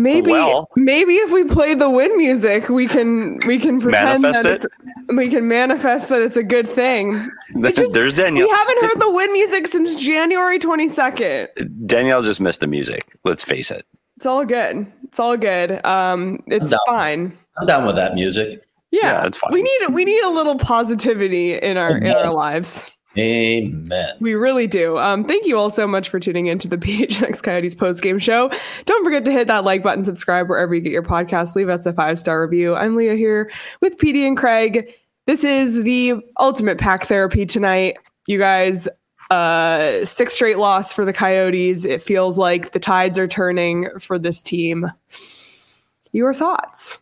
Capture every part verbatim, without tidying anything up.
Maybe, well. maybe if we play the win music, we can we can pretend Manifest that it? it's, we can manifest that it's a good thing. It just- There's Danielle. We haven't heard the win music since January twenty-second. Danielle just missed the music. Let's face it. It's all good. It's all good. Um, it's I'm fine. I'm down with that music. Yeah, Yeah, it's fine. we need we need a little positivity in our in Amen. our lives. Amen. We really do. Um, thank you all so much for tuning into the P H N X Coyotes post-game show. Don't forget to hit that like button, subscribe wherever you get your podcasts. Leave us a five-star review. I'm Leah here with P D and Craig. This is the ultimate pack therapy tonight. You guys, uh, six straight loss for the Coyotes. It feels like the tides are turning for this team. Your thoughts?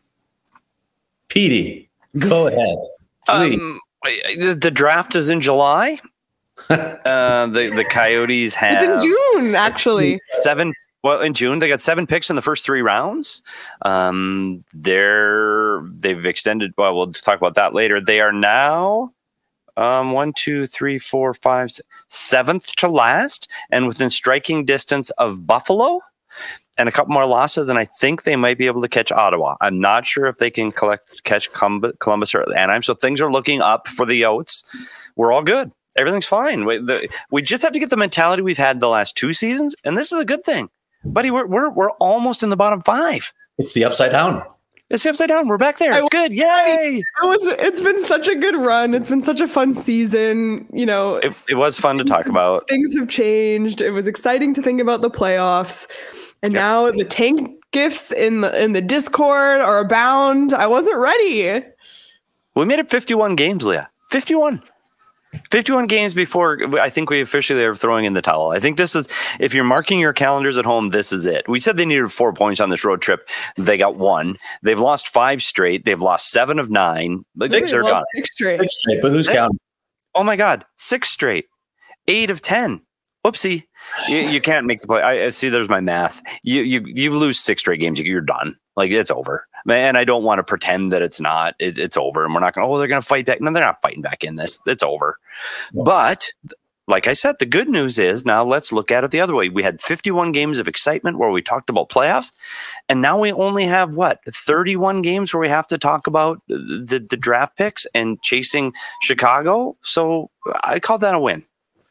Petey, go ahead. Please. Um, the, the draft is in July. uh, the the Coyotes have It's in June, actually. seven. Well, in June they got seven picks in the first three rounds. Um, they're they've extended. Well, we'll talk about that later. They are now um, one, two, three, four, five, seventh to last, and within striking distance of Buffalo. And a couple more losses, and I think they might be able to catch Ottawa. I'm not sure if they can collect catch Columbus or Anaheim. So things are looking up for the Yotes. We're all good. Everything's fine. We, the, we just have to get the mentality we've had the last two seasons, and this is a good thing, buddy. We're we're we're almost in the bottom five. It's the upside down. It's the upside down. We're back there. It's good. Yay! It was. It's been such a good run. It's been such a fun season. You know, It, it was fun to talk about. Things have changed. It was exciting to think about the playoffs. And Yep. now the tank gifts in the in the Discord are abound. I wasn't ready. We made it fifty-one games, Leah. fifty-one. fifty-one games before I think we officially are throwing in the towel. I think this is, if you're marking your calendars at home, this is it. We said they needed four points on this road trip. They got one. They've lost five straight. They've lost seven of nine. Six are gone. Six straight. Six straight, but who's counting? Oh my God. Six straight. Eight of ten. Whoopsie. You, you can't make the play. I, I see. There's my math. You you you lose six straight games. You're done. Like, it's over. And I don't want to pretend that it's not. It, it's over. And we're not going. Oh, they're going to fight back. No, they're not fighting back in this. It's over. No. But like I said, the good news is now let's look at it the other way. We had fifty-one games of excitement where we talked about playoffs, and now we only have what thirty-one games where we have to talk about the the draft picks and chasing Chicago. So I call that a win.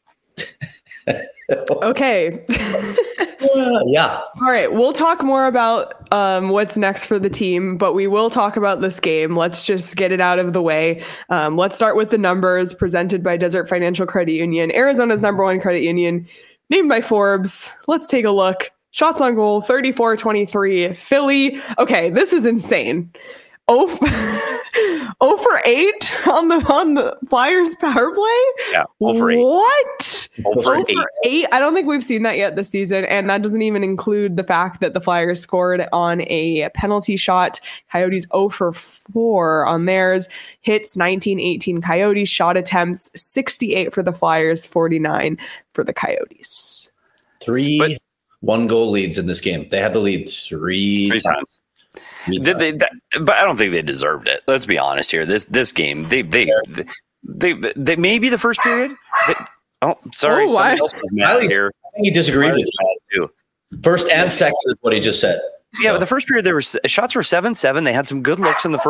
Okay. Uh, yeah. All right. We'll talk more about um, what's next for the team, but we will talk about this game. Let's just get it out of the way. Um, let's start with the numbers presented by Desert Financial Credit Union, Arizona's number one credit union, named by Forbes. Let's take a look. Shots on goal, thirty-four twenty-three. Philly. Okay, this is insane. Oh, oh for eight on the on the Flyers power play? Yeah, oh for eight. What? oh for oh for eight. I don't think we've seen that yet this season, and that doesn't even include the fact that the Flyers scored on a penalty shot. Coyotes oh for four on theirs. Hits nineteen eighteen Coyotes. Shot attempts sixty-eight for the Flyers, forty-nine for the Coyotes. Three But- one goal leads in this game. They had the lead three, Three times. Three Did times. they? That, but I don't think they deserved it. Let's be honest here. This this game, they they they they, they maybe the first period. They, oh, sorry, Oh, why? somebody else is mad Riley, here. I think he disagreed with you. Too. First and second is what he just said. Yeah, So, but the first period, there were shots were seven seven. They had some good looks in the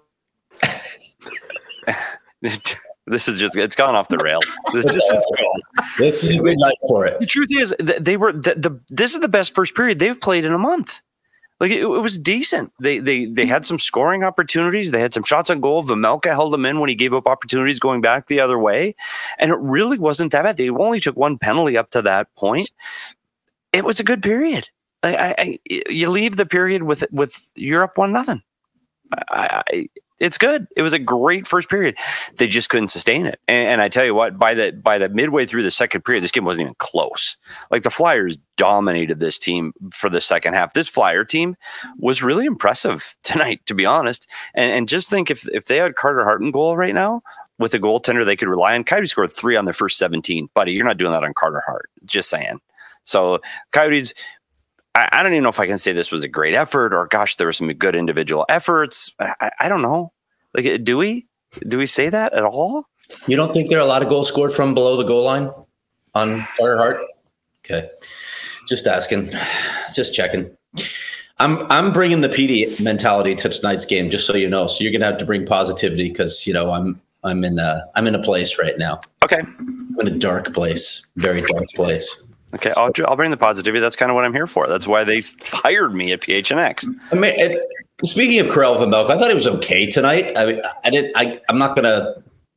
first. This is just, it's gone off the rails. This is just gone. this is a good night for it. The truth is, th- they were the, the this is the best first period they've played in a month. Like, it, it was decent. They they they had some scoring opportunities. They had some shots on goal. Vejmelka held them in when he gave up opportunities going back the other way, and it really wasn't that bad. They only took one penalty up to that point. It was a good period. I, I, I you leave the period with with you're up one nothing. I, I, it's good. It was a great first period. They just couldn't sustain it. And, and I tell you what, by the by the midway through the second period, this game wasn't even close. Like, the Flyers dominated this team for the second half. This Flyer team was really impressive tonight, to be honest. And, and just think, if if they had Carter Hart in goal right now with a goaltender they could rely on, Coyotes scored three on their first seventeen. Buddy, you're not doing that on Carter Hart. Just saying. So Coyotes, I, I don't even know if I can say this was a great effort, or gosh, there were some good individual efforts. I, I don't know. Like, do we do we say that at all? You don't think there are a lot of goals scored from below the goal line on Carter Hart? Okay. Just asking. Just checking. I'm I'm bringing the P D mentality to tonight's game, just so you know. So you're gonna have to bring positivity because you know I'm I'm in a I'm in a place right now. Okay, I'm in a dark place, very dark place. Okay, so, I'll I'll bring the positivity. That's kind of what I'm here for. That's why they hired me at P H N X. I mean, it, speaking of Karel Vejmelka, I thought it was okay tonight. I mean, I didn't. I I'm not gonna.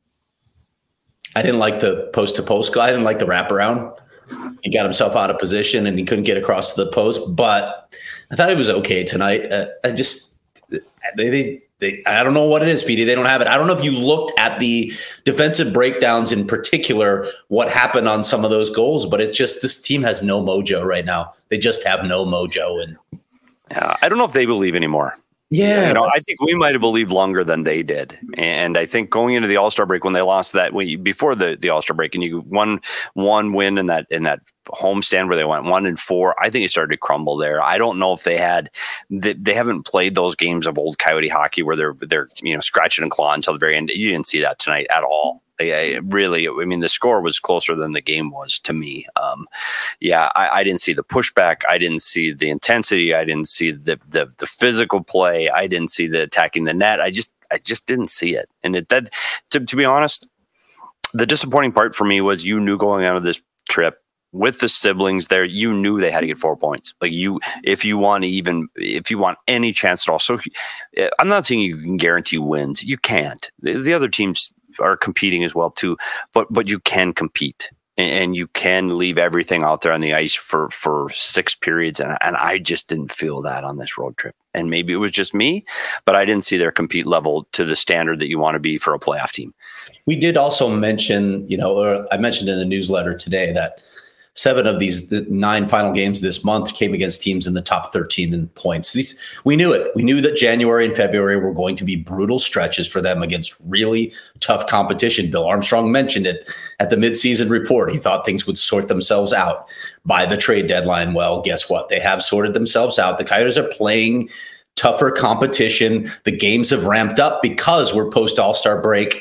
I didn't like the post to post. I didn't like the wraparound. He got himself out of position and he couldn't get across to the post. But I thought it was okay tonight. Uh, I just they, they they I don't know what it is, P D. They don't have it. I don't know if you looked at the defensive breakdowns in particular, what happened on some of those goals, but it's just this team has no mojo right now. They just have no mojo. And uh, I don't know if they believe anymore. Yeah, you know, I think we might have believed longer than they did, and I think going into the All-Star break when they lost that when you, before the, the All-Star break, and you won one win in that in that homestand where they went one and four, I think it started to crumble there. I don't know if they had they, they haven't played those games of old Coyote hockey where they're they're you know scratching and clawing until the very end. You didn't see that tonight at all. I, I really, I mean, the score was closer than the game was to me. Um, yeah, I, I didn't see the pushback. I didn't see the intensity. I didn't see the, the the physical play. I didn't see the attacking the net. I just, I just didn't see it. And it, that, to, to be honest, the disappointing part for me was you knew going out of this trip with the siblings there, you knew they had to get four points. Like you, if you want to even, if you want any chance at all. So I'm not saying you can guarantee wins. You can't. The, the other teams are competing as well too, but but you can compete and, and you can leave everything out there on the ice for for six periods, and and I just didn't feel that on this road trip. And maybe it was just me, but I didn't see their compete level to the standard that you want to be for a playoff team. We did also mention, you know, or I mentioned in the newsletter today that seven of these the nine final games this month came against teams in the top thirteen in points. These, we knew it. We knew that January and February were going to be brutal stretches for them against really tough competition. Bill Armstrong mentioned it at the midseason report. He thought things would sort themselves out by the trade deadline. Well, guess what? They have sorted themselves out. The Coyotes are playing tougher competition. The games have ramped up because we're post All-Star break.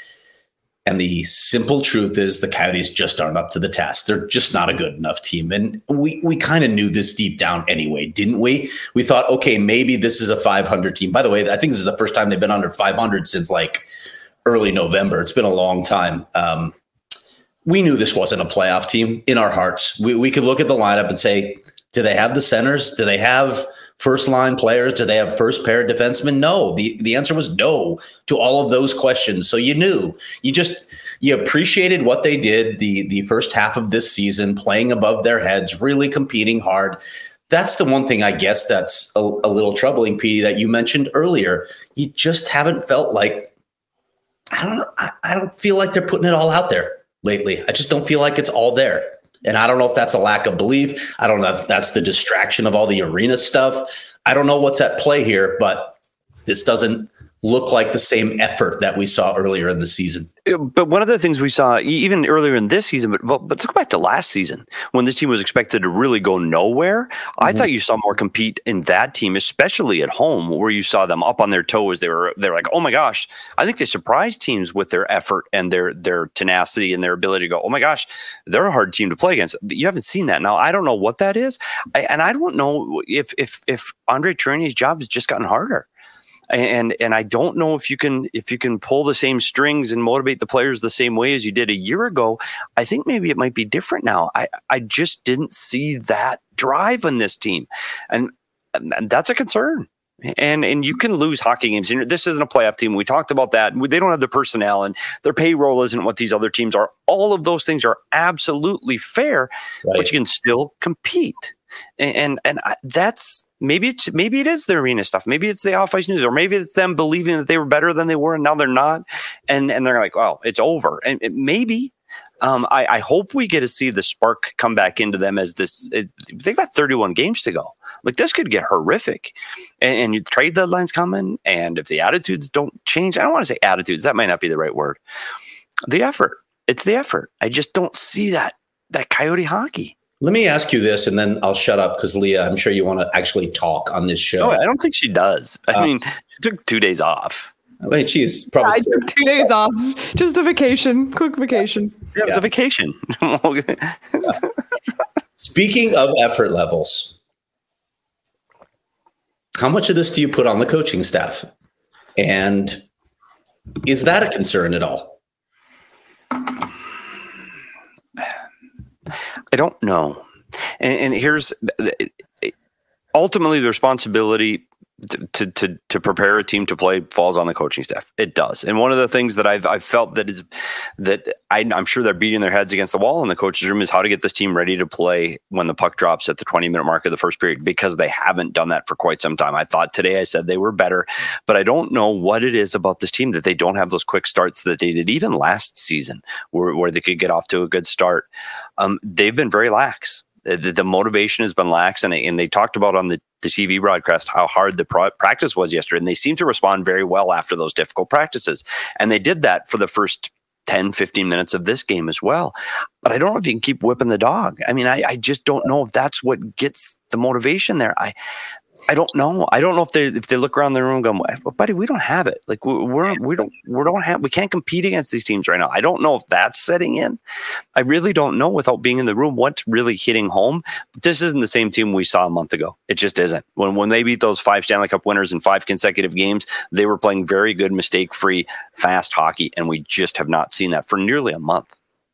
And the simple truth is the Coyotes just aren't up to the task. They're just not a good enough team. And we we kind of knew this deep down anyway, didn't we? We thought, okay, maybe this is a five hundred team. By the way, I think this is the first time they've been under five hundred since like early November. It's been a long time. Um, we knew this wasn't a playoff team in our hearts. We, we could look at the lineup and say, do they have the centers? Do they have first line players? Do they have first pair defensemen? No. The the answer was no to all of those questions. So you knew, you just, you appreciated what they did the, the first half of this season, playing above their heads, really competing hard. That's the one thing I guess that's a, a little troubling, Petey, that you mentioned earlier. You just haven't felt like, I don't know, I, I don't feel like they're putting it all out there lately. I just don't feel like it's all there. And I don't know if that's a lack of belief. I don't know if that's the distraction of all the arena stuff. I don't know what's at play here, but this doesn't look like the same effort that we saw earlier in the season. But one of the things we saw even earlier in this season, but but let's go back to last season when this team was expected to really go nowhere. Mm-hmm. I thought you saw more compete in that team, especially at home, where you saw them up on their toes. They were they were like, oh my gosh! I think they surprised teams with their effort and their their tenacity and their ability to go, oh my gosh, they're a hard team to play against. But you haven't seen that now. I don't know what that is, I, and I don't know if if if Andre Tourigny's job has just gotten harder. And and I don't know if you can if you can pull the same strings and motivate the players the same way as you did a year ago. I think maybe it might be different now. I, I just didn't see that drive on this team, and, and that's a concern. And and you can lose hockey games. And this isn't a playoff team. We talked about that. They don't have the personnel, and their payroll isn't what these other teams are. All of those things are absolutely fair, right, but you can still compete. And and, and I, that's. Maybe it's maybe it is the arena stuff. Maybe it's the off ice news, or maybe it's them believing that they were better than they were, and now they're not. And and they're like, "Well, it's over." And it, maybe um, I, I hope we get to see the spark come back into them as this. It, they've got thirty-one games to go. Like this could get horrific, and, and your trade deadline's coming. And if the attitudes don't change, I don't want to say attitudes. That might not be the right word. The effort. It's the effort. I just don't see that that Coyote hockey. Let me ask you this, and then I'll shut up because, Leah, I'm sure you want to actually talk on this show. No, I don't think she does. I uh, mean, she took two days off. I mean, she's probably... I took two days off. Just a vacation. Quick vacation. Yeah, it was yeah. a vacation. yeah. Speaking of effort levels, How much of this do you put on the coaching staff? And is that a concern at all? I don't know. And, and here's ultimately the responsibility to, to to prepare a team to play falls on the coaching staff. It does. And one of the things that I've I've felt that is that I, I'm sure they're beating their heads against the wall in the coach's room is how to get this team ready to play when the puck drops at the twenty minute mark of the first period, because they haven't done that for quite some time. I thought today I said they were better, but I don't know what it is about this team that they don't have those quick starts that they did even last season where, where they could get off to a good start. Um, they've been very lax. The, the motivation has been lax, and, and they talked about on the, the T V broadcast how hard the pro- practice was yesterday, and they seem to respond very well after those difficult practices. And they did that for the first ten, fifteen minutes of this game as well. But I don't know if you can keep whipping the dog. I mean, I, I just don't know if that's what gets the motivation there. I I don't know. I don't know if they if they look around the room and go, well, buddy, we don't have it. Like we're, we're we don't we don't have we can't compete against these teams right now. I don't know if that's setting in. I really don't know without being in the room what's really hitting home. This isn't the same team we saw a month ago. It just isn't. When when they beat those five Stanley Cup winners in five consecutive games, they were playing very good, mistake-free, fast hockey, and we just have not seen that for nearly a month.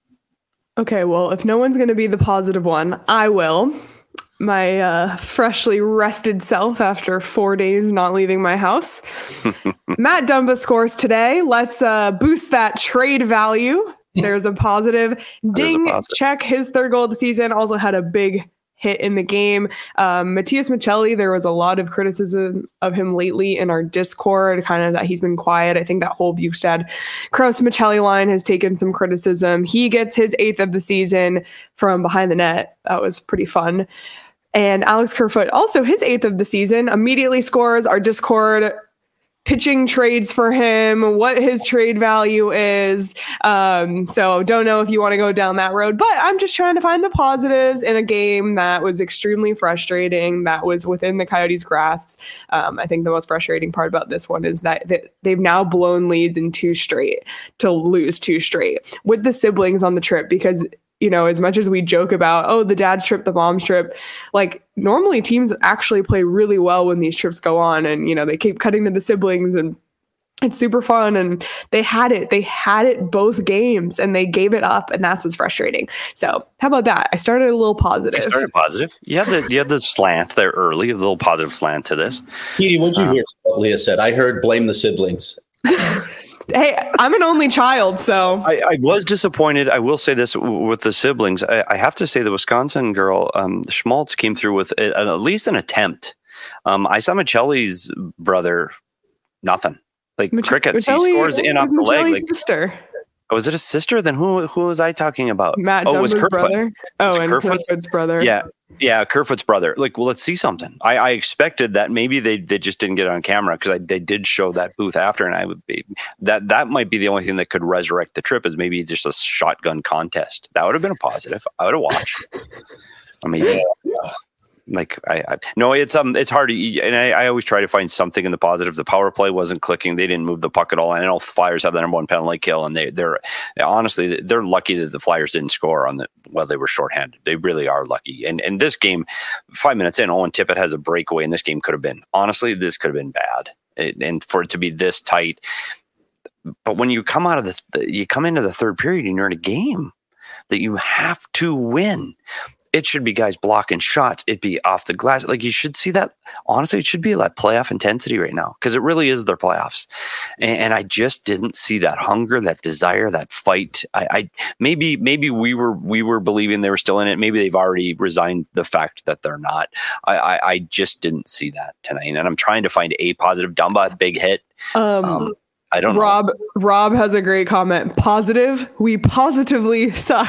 Okay, well, if no one's going to be the positive one, I will. My uh, freshly rested self after four days not leaving my house. Matt Dumba scores today. Let's uh, boost that trade value. There's a positive. Ding, a positive. Check his third goal of the season. Also had a big hit in the game. Um, Matias Maccelli, there was a lot of criticism of him lately in our Discord, kind of that he's been quiet. I think that whole Bukestad Crouse Maccelli line has taken some criticism. He gets his eighth of the season from behind the net. That was pretty fun. And Alex Kerfoot, also his eighth of the season, immediately scores. Our Discord pitching trades for him, what his trade value is. Um, so don't know if you want to go down that road, but I'm just trying to find the positives in a game that was extremely frustrating, that was within the Coyotes' grasps. Um, I think the most frustrating part about this one is that, that they've now blown leads in two straight to lose two straight with the siblings on the trip, because you know, as much as we joke about, oh, the dad's trip, the mom's trip, like normally teams actually play really well when these trips go on, and, you know, they keep cutting to the siblings and it's super fun. And they had it, they had it both games and they gave it up. And that's what's frustrating. So how about that? I started a little positive. You started positive. You had the, you had the slant there early, a little positive slant to this. Petey, what'd you um, hear what Leah said? I heard blame the siblings. Hey, I'm an only child, so I, I was disappointed. I will say this w- with the siblings. I, I have to say the Wisconsin girl, um, Schmaltz, came through with a, at least an attempt. Um, I saw Maccelli's brother, nothing. Like Mich- crickets. Maccelli, he scores in off the leg. Like, sister. Oh, was it a sister? Then who who was I talking about? Matt oh, Dumba's it was Kerfoot. brother. Oh, and Kerfoot's? Kerfoot's brother. Yeah. Yeah, Kerfoot's brother. Like, well, let's see something. I, I expected that maybe they, they just didn't get it on camera because they did show that booth after, and I would be that that might be the only thing that could resurrect the trip is maybe just a shotgun contest. That would have been a positive. I would have watched. I mean, yeah. Like I, I no, it's um, it's hard to, and I, I always try to find something in the positive. The power play wasn't clicking; they didn't move the puck at all. And I know Flyers have the number one penalty kill, and they they're honestly they're lucky that the Flyers didn't score on the while they were shorthanded. They really are lucky. And and this game, five minutes in, Owen Tippett has a breakaway, and this game could have been honestly this could have been bad. It, and for it to be this tight, but when you come out of the you come into the third period and you're in a game that you have to win. It should be guys blocking shots. It'd be off the glass. Like you should see that. Honestly, it should be like playoff intensity right now because it really is their playoffs. And, and I just didn't see that hunger, that desire, that fight. I, I maybe maybe we were we were believing they were still in it. Maybe they've already resigned the fact that they're not. I, I, I just didn't see that tonight. And I'm trying to find a positive. Dumba, big hit. Um, um I don't Rob, know. Rob has a great comment. Positive. We positively suck.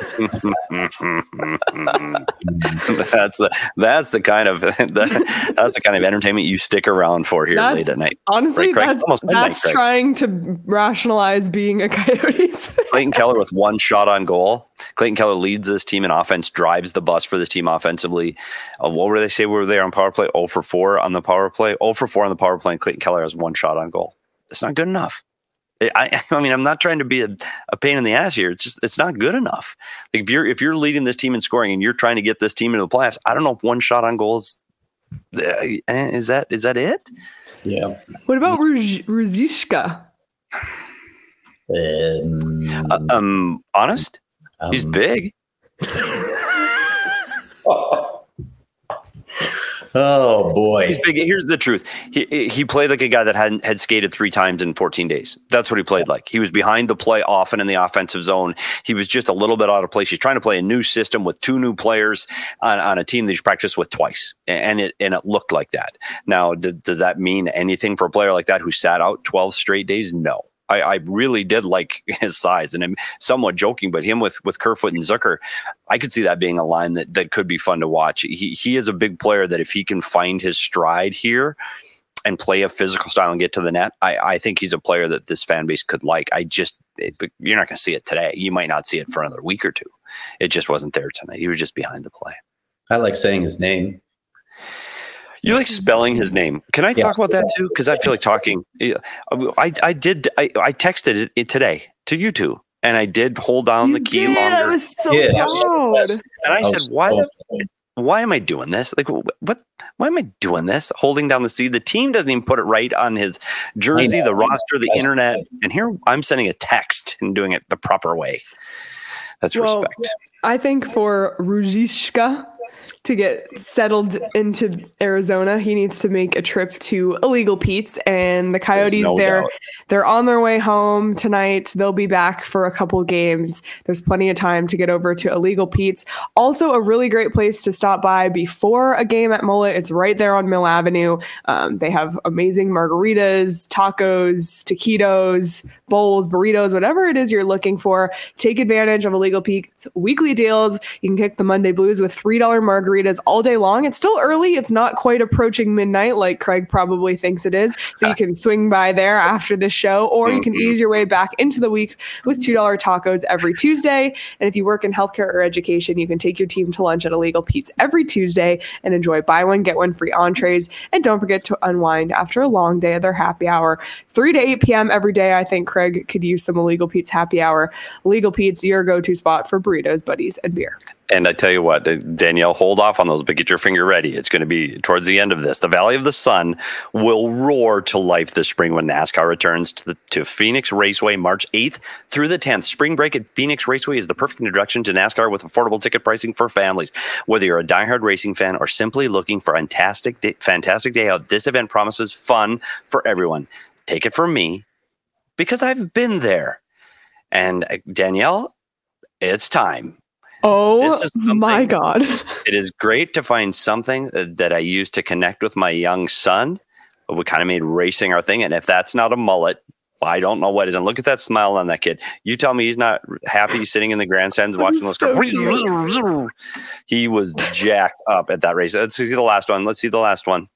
that's the that's the kind of the, that's the kind of entertainment you stick around for here that's, late at night. Honestly, right, that's that's Craig. Trying to rationalize being a Coyotes. Clayton Keller with one shot on goal. Clayton Keller leads this team in offense, drives the bus for this team offensively. Uh, what were they say? Were they on power play? oh for four on the power play. oh for four on the power play. And Clayton Keller has one shot on goal. It's not good enough. I, I mean, I'm not trying to be a, a pain in the ass here. It's just, it's not good enough. Like if you're, if you're leading this team in scoring and you're trying to get this team into the playoffs, I don't know if one shot on goal is Uh, is that is that it? Yeah. What about Ruzicka? Um, Uh, um, honest, um, he's big. Oh boy, he's big. Here's the truth: he he played like a guy that hadn't had skated three times in fourteen days. That's what he played like. He was behind the play often in the offensive zone. He was just a little bit out of place. He's trying to play a new system with two new players on, on a team that he's practiced with twice, and it and it looked like that. Now, d- does that mean anything for a player like that who sat out twelve straight days? No. I, I really did like his size, and I'm somewhat joking, but him with, with Kerfoot and Zucker, I could see that being a line that, that could be fun to watch. He he is a big player that if he can find his stride here and play a physical style and get to the net, I, I think he's a player that this fan base could like. I just, it, you're not going to see it today. You might not see it for another week or two. It just wasn't there tonight. He was just behind the play. I like saying his name. You like spelling his name. Can I yeah. talk about that too? Because I feel like talking. I I did. I, I texted it, it today to you two, and I did hold down you the key did. longer. I was so yeah, proud. And I, I said, "Why? So the, why am I doing this? Like, what? Why am I doing this? Holding down the C. The team doesn't even put it right on his jersey, the roster, the That's internet. Right. And here I'm sending a text and doing it the proper way. That's well, respect. I think for Ruzicka to get settled into Arizona, he needs to make a trip to Illegal Pete's, and the Coyotes, no they're doubt. they're on their way home tonight. They'll be back for a couple games. There's plenty of time to get over to Illegal Pete's. Also a really great place to stop by before a game at Mullet. It's right there on Mill Avenue. Um, they have amazing margaritas, tacos, taquitos, bowls, burritos, whatever it is you're looking for. Take advantage of Illegal Pete's weekly deals. You can kick the Monday Blues with three dollars margaritas all day long. It's still early. It's not quite approaching midnight like Craig probably thinks it is. So you can swing by there after the show, or you can ease your way back into the week with two dollars tacos every Tuesday. And if you work in healthcare or education, you can take your team to lunch at Illegal Pete's every Tuesday and enjoy buy one, get one free entrees. And don't forget to unwind after a long day of their happy hour. three to eight p.m. every day. I think Craig could use some Illegal Pete's happy hour. Illegal Pete's, your go-to spot for burritos, buddies, and beer. And I tell you what, Danielle, hold off on those, but get your finger ready. It's going to be towards the end of this. The Valley of the Sun will roar to life this spring when NASCAR returns to the to Phoenix Raceway March eighth through the tenth. Spring break at Phoenix Raceway is the perfect introduction to NASCAR with affordable ticket pricing for families. Whether you're a diehard racing fan or simply looking for a fantastic day, fantastic day out, this event promises fun for everyone. Take it from me, because I've been there. And uh, Danielle, it's time. Oh my God. It is great to find something that I use to connect with my young son. We kind of made racing our thing. And if that's not a mullet, I don't know what is. And look at that smile on that kid. You tell me he's not happy sitting in the grandstands watching those so cars. He was jacked up at that race. Let's see the last one. Let's see the last one.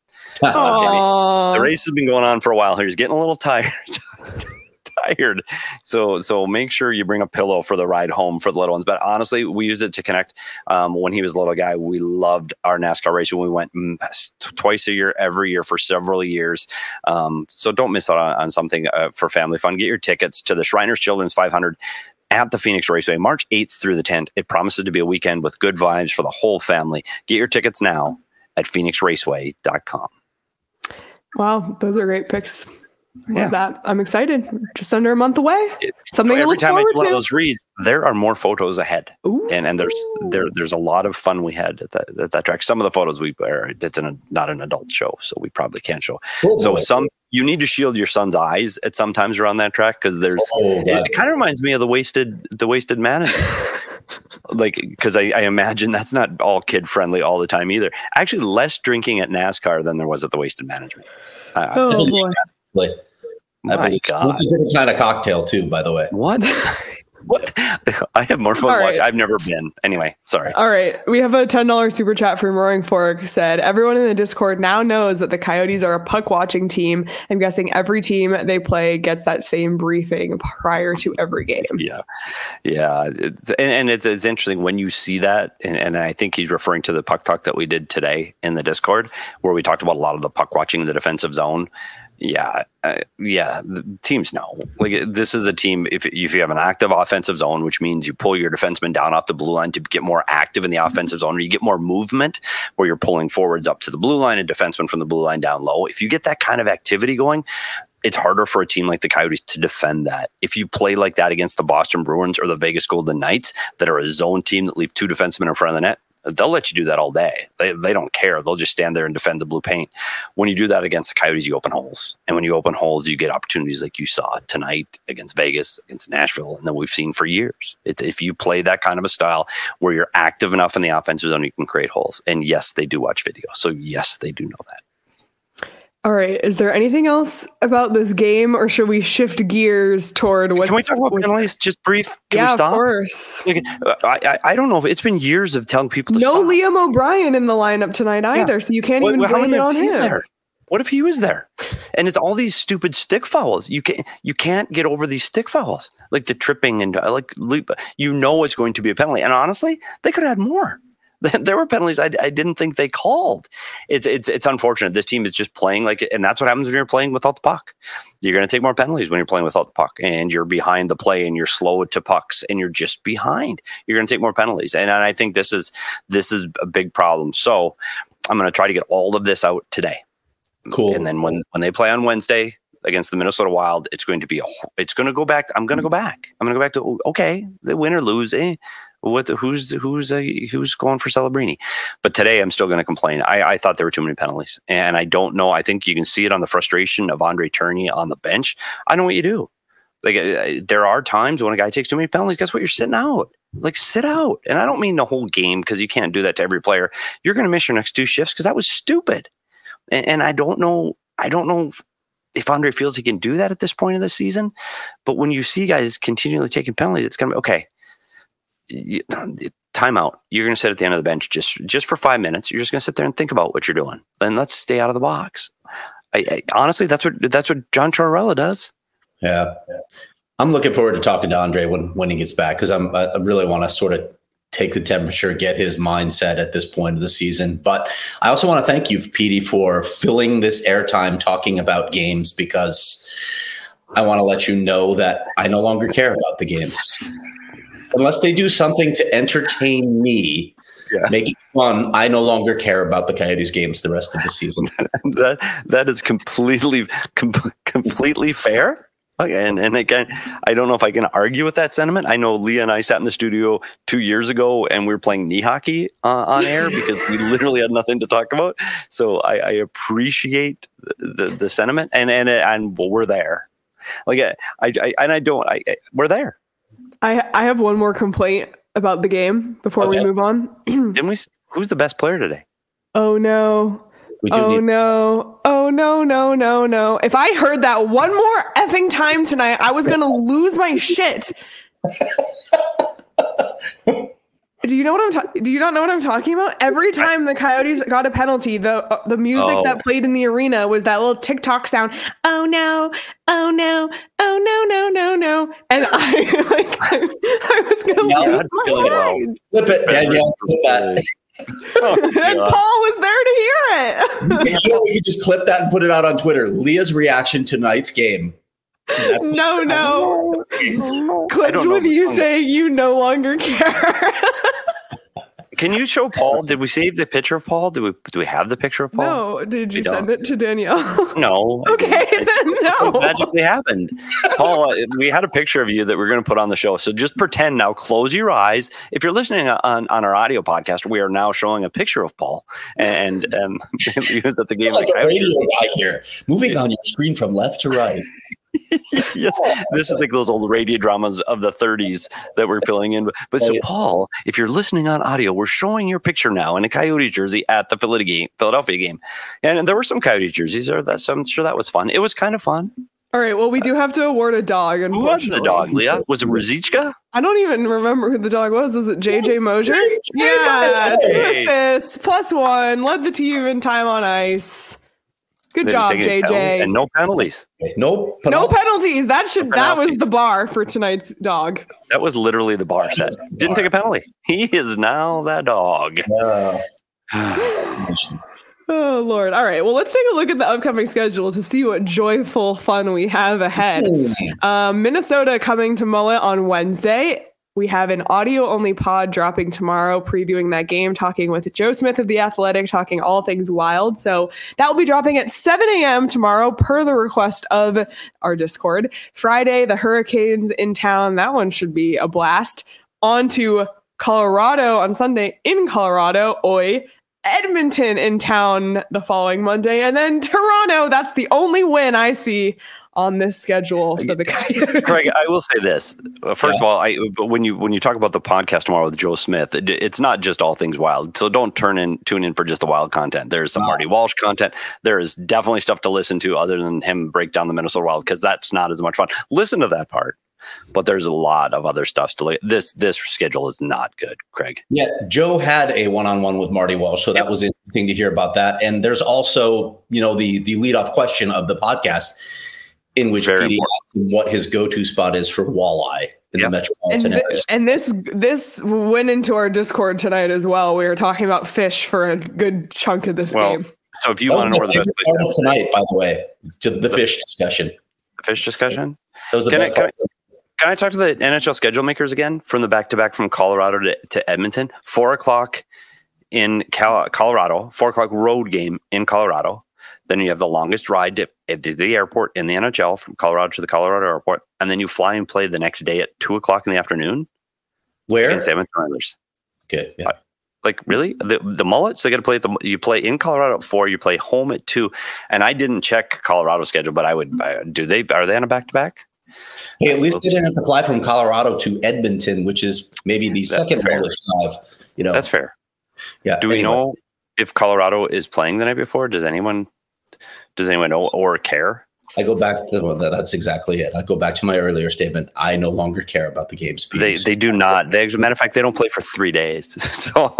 Uh, the race has been going on for a while here. He's getting a little tired. tired. So so make sure you bring a pillow for the ride home for the little ones. But honestly, we used it to connect. Um, when he was a little guy, we loved our NASCAR racing. We went mm, twice a year, every year for several years. Um, so don't miss out on, on something uh, for family fun. Get your tickets to the Shriners Children's five hundred at the Phoenix Raceway, March eighth through the tenth. It promises to be a weekend with good vibes for the whole family. Get your tickets now at phoenix raceway dot com. Wow, those are great picks. Love yeah. that. I'm excited. Just under a month away. Something Every to look time forward I do one to. of those reads, there are more photos ahead. Ooh. And and there's there there's a lot of fun we had at that, at that track. Some of the photos we are it's in a, not an adult show, so we probably can't show. Oh, so boy. some you need to shield your son's eyes at sometimes around that track, because there's oh, it, it kind of reminds me of the wasted the wasted manager. Like, because I, I imagine that's not all kid friendly all the time either. Actually, less drinking at NASCAR than there was at the Wasted Management. Uh, oh boy. Like, My God. It's a different kind of cocktail too, by the way. What? What? I have more fun right. watching. I've never been. Anyway, sorry. All right. We have a ten dollars super chat from Roaring Fork. Said, everyone in the Discord now knows that the Coyotes are a puck watching team. I'm guessing every team they play gets that same briefing prior to every game. Yeah. Yeah. It's, and and it's, it's interesting when you see that. And, and I think he's referring to the puck talk that we did today in the Discord, where we talked about a lot of the puck watching in the defensive zone. Yeah, uh, yeah. The teams know. Like this is a team. If if you have an active offensive zone, which means you pull your defenseman down off the blue line to get more active in the offensive zone, or you get more movement where you're pulling forwards up to the blue line and defensemen from the blue line down low. If you get that kind of activity going, it's harder for a team like the Coyotes to defend that. If you play like that against the Boston Bruins or the Vegas Golden Knights, that are a zone team that leave two defensemen in front of the net, they'll let you do that all day. They they don't care. They'll just stand there and defend the blue paint. When you do that against the Coyotes, you open holes. And when you open holes, you get opportunities like you saw tonight against Vegas, against Nashville, and then we've seen for years. It's, if you play that kind of a style where you're active enough in the offensive zone, you can create holes. And yes, they do watch video. So yes, they do know that. All right. Is there anything else about this game, or should we shift gears toward what's... Can we talk about penalties just brief? Can yeah, we stop? Of course. Like, I, I I don't know if it's been years of telling people to no stop. Liam O'Brien in the lineup tonight either, yeah. so you can't what, even what, blame it on him. There? What if he was there? And it's all these stupid stick fouls. You can't you can't get over these stick fouls, like the tripping and like you know it's going to be a penalty. And honestly, they could have had more. There were penalties I, I didn't think they called. It's it's it's unfortunate. This team is just playing like it, and that's what happens when you're playing without the puck. You're going to take more penalties when you're playing without the puck, and you're behind the play, and you're slow to pucks, and you're just behind. You're going to take more penalties, and, and I think this is this is a big problem. So I'm going to try to get all of this out today. Cool. And then when when they play on Wednesday against the Minnesota Wild, it's going to be a it's going to go back. I'm going to go back. I'm going to go back to okay, they win or lose. Eh? What? Who's who's uh, who's going for Celebrini? But today, I'm still going to complain. I, I thought there were too many penalties, and I don't know. I think you can see it on the frustration of Andre Tourigny on the bench. I know what you do. Like uh, there are times when a guy takes too many penalties. Guess what? You're sitting out. Like sit out. And I don't mean the whole game because you can't do that to every player. You're going to miss your next two shifts because that was stupid. And, and I don't know. I don't know. If, if Andre feels he can do that at this point of the season, but when you see guys continually taking penalties, it's going to be okay. Timeout. You're going to sit at the end of the bench just just for five minutes. You're just going to sit there and think about what you're doing, and let's stay out of the box. I, I honestly, that's what that's what John Tortorella does. Yeah, I'm looking forward to talking to Andre when when he gets back because I'm I really want to sort of take the temperature, get his mindset at this point of the season. But I also want to thank you, Petey, for filling this airtime talking about games because I want to let you know that I no longer care about the games. Unless they do something to entertain me, yeah. make it fun, I no longer care about the Coyotes games the rest of the season. that that is completely com- completely fair. Okay, and, and again, I don't know if I can argue with that sentiment. I know Leah and I sat in the studio two years ago and we were playing knee hockey uh, on air because we literally had nothing to talk about. So I, I appreciate the, the the sentiment, and and and well, we're there. Like I, I and I don't. I, I we're there. I I have one more complaint about the game before okay. we move on. Didn't we? Who's the best player today? Oh no! Oh need- no! Oh no! No! No! No! If I heard that one more effing time tonight, I was gonna lose my shit. Do you know what I'm talking? Do you not know what I'm talking about? Every time the Coyotes got a penalty, the uh, the music oh. that played in the arena was that little TikTok sound. Oh no! Oh no! Oh no! No! No! No! And I like I, I was gonna yeah, lose my mind. Flip it, Danielle. Flip that. Oh, and Paul was there to hear it. You know, we could just clip that and put it out on Twitter. Leah's reaction to tonight's game. No, no. Clips with you saying you no longer care. Can you show Paul? Did we save the picture of Paul? Do we do we have the picture of Paul? No. Did you we send don't. it to Danielle? No. Okay, then no. It magically happened. Paul, we had a picture of you that we're going to put on the show. So just pretend now. Close your eyes. If you're listening on, on our audio podcast, we are now showing a picture of Paul, and um, he was at the game. Like a radio guy here, moving on your screen from left to right. Yes, this is like those old radio dramas of the thirties that we're filling in. But so, Paul, if you're listening on audio, we're showing your picture now in a Coyote jersey at the Philadelphia game, and there were some Coyote jerseys there. That so I'm sure that was fun. It was kind of fun. All right. Well, we do have to award a dog. Who was the dog, Leah? Was it Ruzicka? I don't even remember who the dog was. Was it J J Mosier? Yeah, hey. Two assists, plus one, led the team in time on ice. Good job, J J. And no penalties. No penalties. No penalties. That should no that was the bar for tonight's dog. That was literally the bar set. Didn't bar. take a penalty. He is now that dog. Uh, Oh, Lord. All right. Well, let's take a look at the upcoming schedule to see what joyful fun we have ahead. Um, Minnesota coming to Mullet on Wednesday. We have an audio-only pod dropping tomorrow, previewing that game, talking with Joe Smith of The Athletic, talking all things Wild. So that will be dropping at seven a.m. tomorrow, per the request of our Discord. Friday, the Hurricanes in town. That one should be a blast. On to Colorado on Sunday in Colorado. Oi. Edmonton in town the following Monday. And then Toronto. That's the only win I see on this schedule for the Coyotes. Craig, I will say this. First yeah. of all, I but when you when you talk about the podcast tomorrow with Joe Smith, it, it's not just all things Wild. So don't turn in tune in for just the Wild content. There's some wow. Marty Walsh content. There is definitely stuff to listen to other than him break down the Minnesota Wild, because that's not as much fun. Listen to that part. But there's a lot of other stuff to look. This this schedule is not good, Craig. Yeah, Joe had a one-on-one with Marty Walsh, so that yep. was interesting to hear about that. And there's also, you know, the the leadoff question of the podcast, in which Very Petey asked him what his go-to spot is for walleye in yep. the metropolitan and area. Th- and this this went into our Discord tonight as well. We were talking about fish for a good chunk of this well, game. So if you want to know where the best place is tonight, by the way, to the, the fish discussion. The fish discussion. That was the can, best I, can, I, can I talk to the N H L schedule makers again from the back-to-back from Colorado to, to Edmonton? Four o'clock in Cal- Colorado. Four o'clock road game in Colorado. Then you have the longest ride to, to the airport in the N H L from Colorado to the Colorado airport. And then you fly and play the next day at two o'clock in the afternoon. Where? Against Edmonton Oilers. Good. Yeah. Like, really? The the Mullets, they got to play at the, you play in Colorado at four, you play home at two. And I didn't check Colorado's schedule, but I would, I, do they, are they on a back-to-back? Hey, at least they didn't have to fly from Colorado to Edmonton, which is maybe the That's second fair. longest drive. You know, that's fair. Yeah. Do we anyway. know if Colorado is playing the night before? Does anyone, does anyone know or care? I go back to well, that's exactly it. I go back to my earlier statement. I no longer care about the game speed. They they do not. They, as a matter of fact, they don't play for three days. So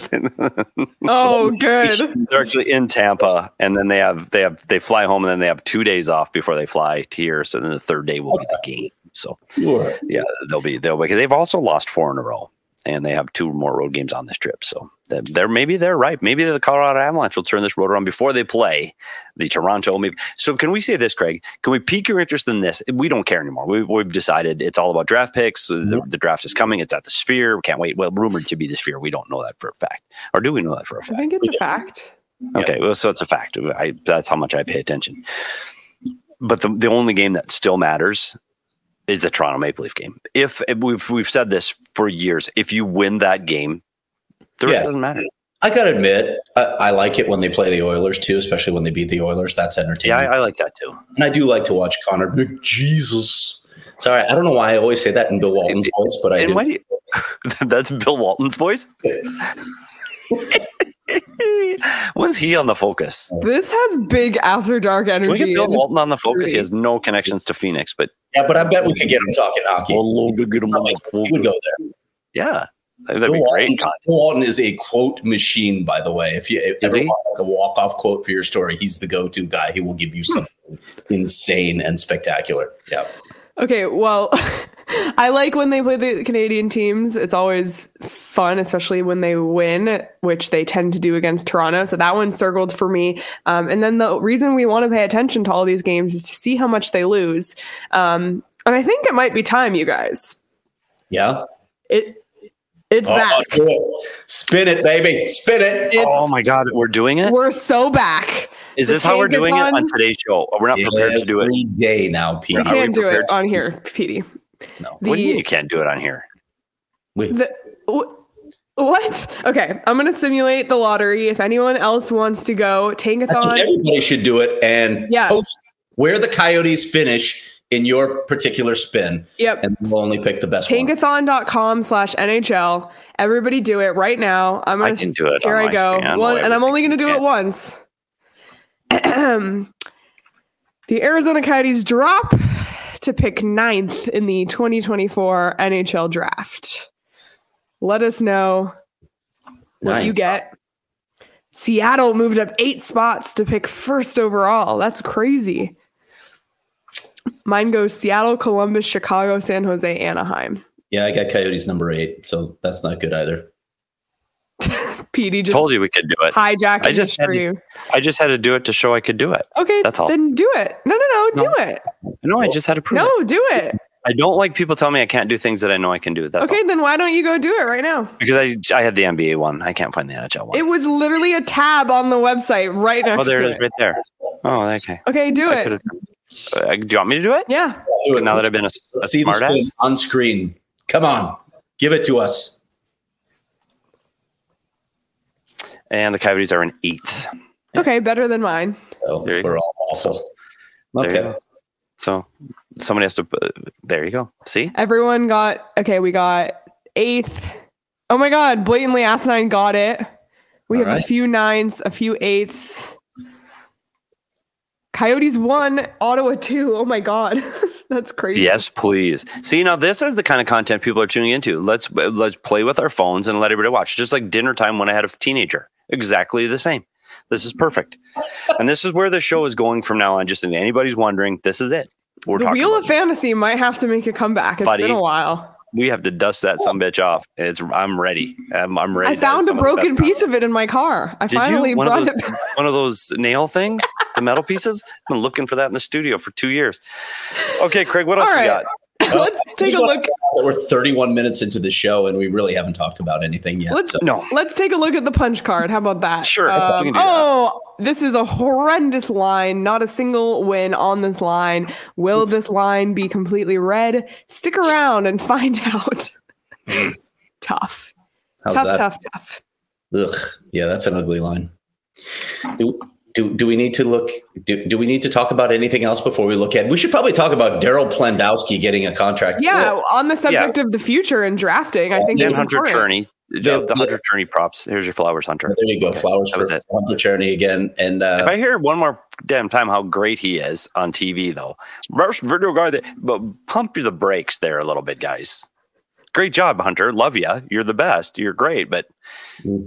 oh, good. They're actually in Tampa, and then they have they have they fly home, and then they have two days off before they fly here. So then the third day will okay. be the game. So sure. yeah, they'll be they'll be. They've also lost four in a row, and they have two more road games on this trip. So they're maybe they're right. Maybe the Colorado Avalanche will turn this road around before they play the Toronto. Maybe. So can we say this, Craig? Can we pique your interest in this? We don't care anymore. We, we've decided it's all about draft picks. Mm-hmm. The, the draft is coming. It's at the Sphere. We can't wait. Well, rumored to be the Sphere. We don't know that for a fact, or do we know that for a fact? I think it's a fact. Okay, well, so it's a fact. I, that's how much I pay attention. But the the only game that still matters is the Toronto Maple Leaf game. If we've we've said this for years, if you win that game, the rest yeah. doesn't matter. I gotta admit, I, I like it when they play the Oilers too, especially when they beat the Oilers. That's entertaining. Yeah, I, I like that too. And I do like to watch Connor McJesus. Sorry, I don't know why I always say that in Bill Walton's and, voice, but I and do. Why do you, that's Bill Walton's voice? When's he on the Focus? This has big after dark energy. Can we get Bill Walton on the Focus? He has no connections to Phoenix, but yeah, but I bet we could get him talking hockey. We'll to get him on the Focus. He would go there. Yeah, that'd Bill be Walton, great. Bill Walton is a quote machine, by the way. If you if ever want like a walk off quote for your story, he's the go to guy. He will give you something insane and spectacular. Yeah. Okay, well, I like when they play the Canadian teams. It's always fun, especially when they win, which they tend to do against Toronto. So that one's circled for me. Um, and then the reason we want to pay attention to all these games is to see how much they lose. Um, and I think it might be time, you guys. Yeah. It It's oh, back. Cool. Spin it, baby. Spin it. It's, oh, my God. We're doing it? We're so back. Is this how we're doing it on today's show? We're not prepared to do it every day now, Pete. We can't do it on here, Petey. No. The, what do you mean you can't do it on here? Wait. The, wh- what? Okay, I'm going to simulate the lottery. If anyone else wants to go, Tankathon. Everybody should do it and yeah. post where the Coyotes finish in your particular spin. Yep. And we'll only pick the best one. Tankathon.com slash NHL. Everybody do it right now. I'm gonna, I can do it. Here I go. One, and I'm only going to do it once. The Arizona Coyotes drop to pick ninth in the twenty twenty-four N H L draft. Let us know what Ninth. you get. Seattle moved up eight spots to pick first overall. That's crazy. Mine goes Seattle, Columbus, Chicago, San Jose, Anaheim. Yeah, I got Coyotes number eight, so that's not good either. Petey just told you we could do it. hijacking I just this had for to, you. I just had to do it to show I could do it. Okay, That's all. then do it. No, no, no, No. do it. No, I just had to prove No, it. do it. I don't like people telling me I can't do things that I know I can do. That's Okay, all. then why don't you go do it right now? Because I I had the N B A one. I can't find the N H L one. It was literally a tab on the website right next oh, there to it is, it. right there. Oh, okay. Okay, do I it. could've- Uh, do you want me to do it? Yeah. Do it. Now that I've been a, a Let's see this smart ass. on screen. Come on, give it to us. And the Coyotes are in eighth. Okay, better than mine. Oh, There you we're go. all awful. There you Okay. go. So somebody has to. Uh, there you go. See? Everyone got okay. We got eighth. Oh my god! Blatantly asinine got it. We All have right. a few nines, a few eights. Coyotes one, Ottawa two. Oh my god, that's crazy. Yes, please. See, now this is the kind of content people are tuning into. Let's let's play with our phones and let everybody watch. Just like dinner time when I had a teenager. Exactly the same. This is perfect. And this is where the show is going from now on. Just if anybody's wondering, this is it. We're The talking Wheel about of Fantasy might have to make a comeback. It's Buddy. been a while. we have to dust that some bitch off. It's I'm ready. I'm, I'm ready. I found a That is some of the broken best piece of it in my car. I Did finally you one of brought those it back. one of those nail things, the metal pieces? I've been looking for that in the studio for two years. Okay, Craig, what else All we right. got? Let's take a look. We're thirty-one minutes into the show and we really haven't talked about anything yet. Let's so. No, let's take a look at the punch card. How about that? Sure, we Um, can do that. oh, this is a horrendous line. Not a single win on this line. Will this line be completely red? Stick around and find out. Tough. How's tough, that? tough, tough. Ugh. Yeah, that's an ugly line. Do, do, do we need to look? Do, do we need to talk about anything else before we look at? We should probably talk about Daryl Plandowski getting a contract. Yeah, on the subject of the future and drafting, I think Dan it's Hunter important. Cherney. The, the Hunter Cherney props. Here's your flowers, Hunter. There you go. Okay, Flowers that for was it. Hunter Cherney again. And uh, If I hear one more damn time how great he is on T V, though, Rush video guy, that, but pump the brakes there a little bit, guys. Great job, Hunter. Love you. You're the best. You're great, but Mm.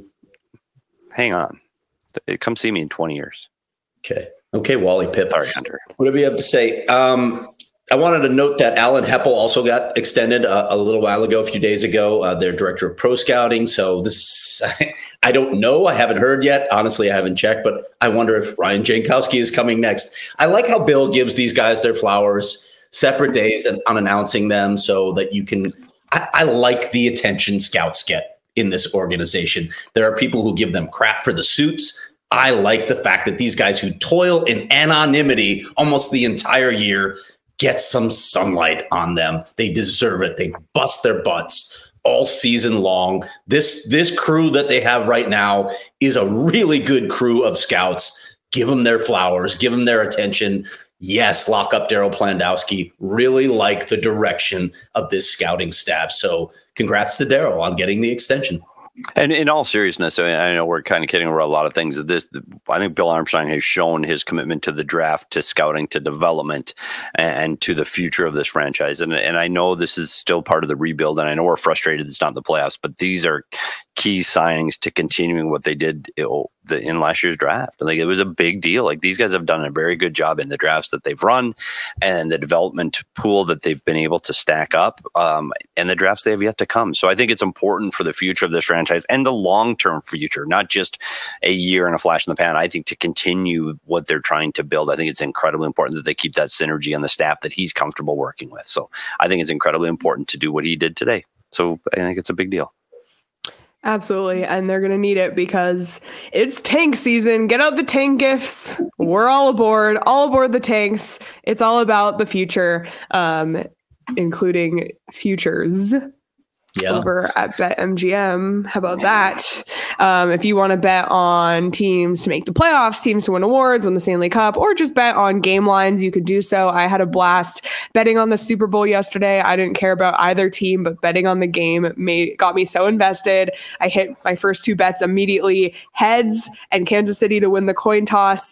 hang on. Come see me in twenty years. okay, okay, Wally Pip. Sorry, Hunter. What do we have to say? Um, I wanted to note that Alan Heppel also got extended a, a little while ago, a few days ago. Uh, their director of pro scouting. So this, I don't know. I haven't heard yet. Honestly, I haven't checked, but I wonder if Ryan Jankowski is coming next. I like how Bill gives these guys their flowers separate days and unannouncing them so that you can. I, I like the attention scouts get in this organization. There are people who give them crap for the suits. I like the fact that these guys who toil in anonymity almost the entire year get some sunlight on them. They deserve it. They bust their butts all season long. This this crew that they have right now is a really good crew of scouts. Give them their flowers. Give them their attention. Yes, lock up Daryl Plandowski. Really like the direction of this scouting staff. So congrats to Daryl on getting the extension. And in all seriousness, I, mean, I know we're kind of kidding around a lot of things. This, I think Bill Armstrong has shown his commitment to the draft, to scouting, to development, and, and to the future of this franchise. And and I know this is still part of the rebuild, and I know we're frustrated it's not in the playoffs, but these are key signings to continuing what they did you know, the, in last year's draft. Like it was a big deal. Like these guys have done a very good job in the drafts that they've run, and the development pool that they've been able to stack up, um, and the drafts they have yet to come. So I think it's important for the future of this franchise and the long-term future, not just a year and a flash in the pan. I think to continue what they're trying to build, I think it's incredibly important that they keep that synergy on the staff that he's comfortable working with. So I think it's incredibly important to do what he did today. So I think it's a big deal. Absolutely. And they're going to need it because it's tank season. Get out the tank gifts. We're all aboard, all aboard the tanks. It's all about the future, um, including futures. Yeah. Over at BetMGM. How about that? Um, if you want to bet on teams to make the playoffs, teams to win awards, win the Stanley Cup, or just bet on game lines, you could do so. I had a blast betting on the Super Bowl yesterday. I didn't care about either team, but betting on the game made got me so invested. I hit my first two bets immediately. Heads and Kansas City to win the coin toss.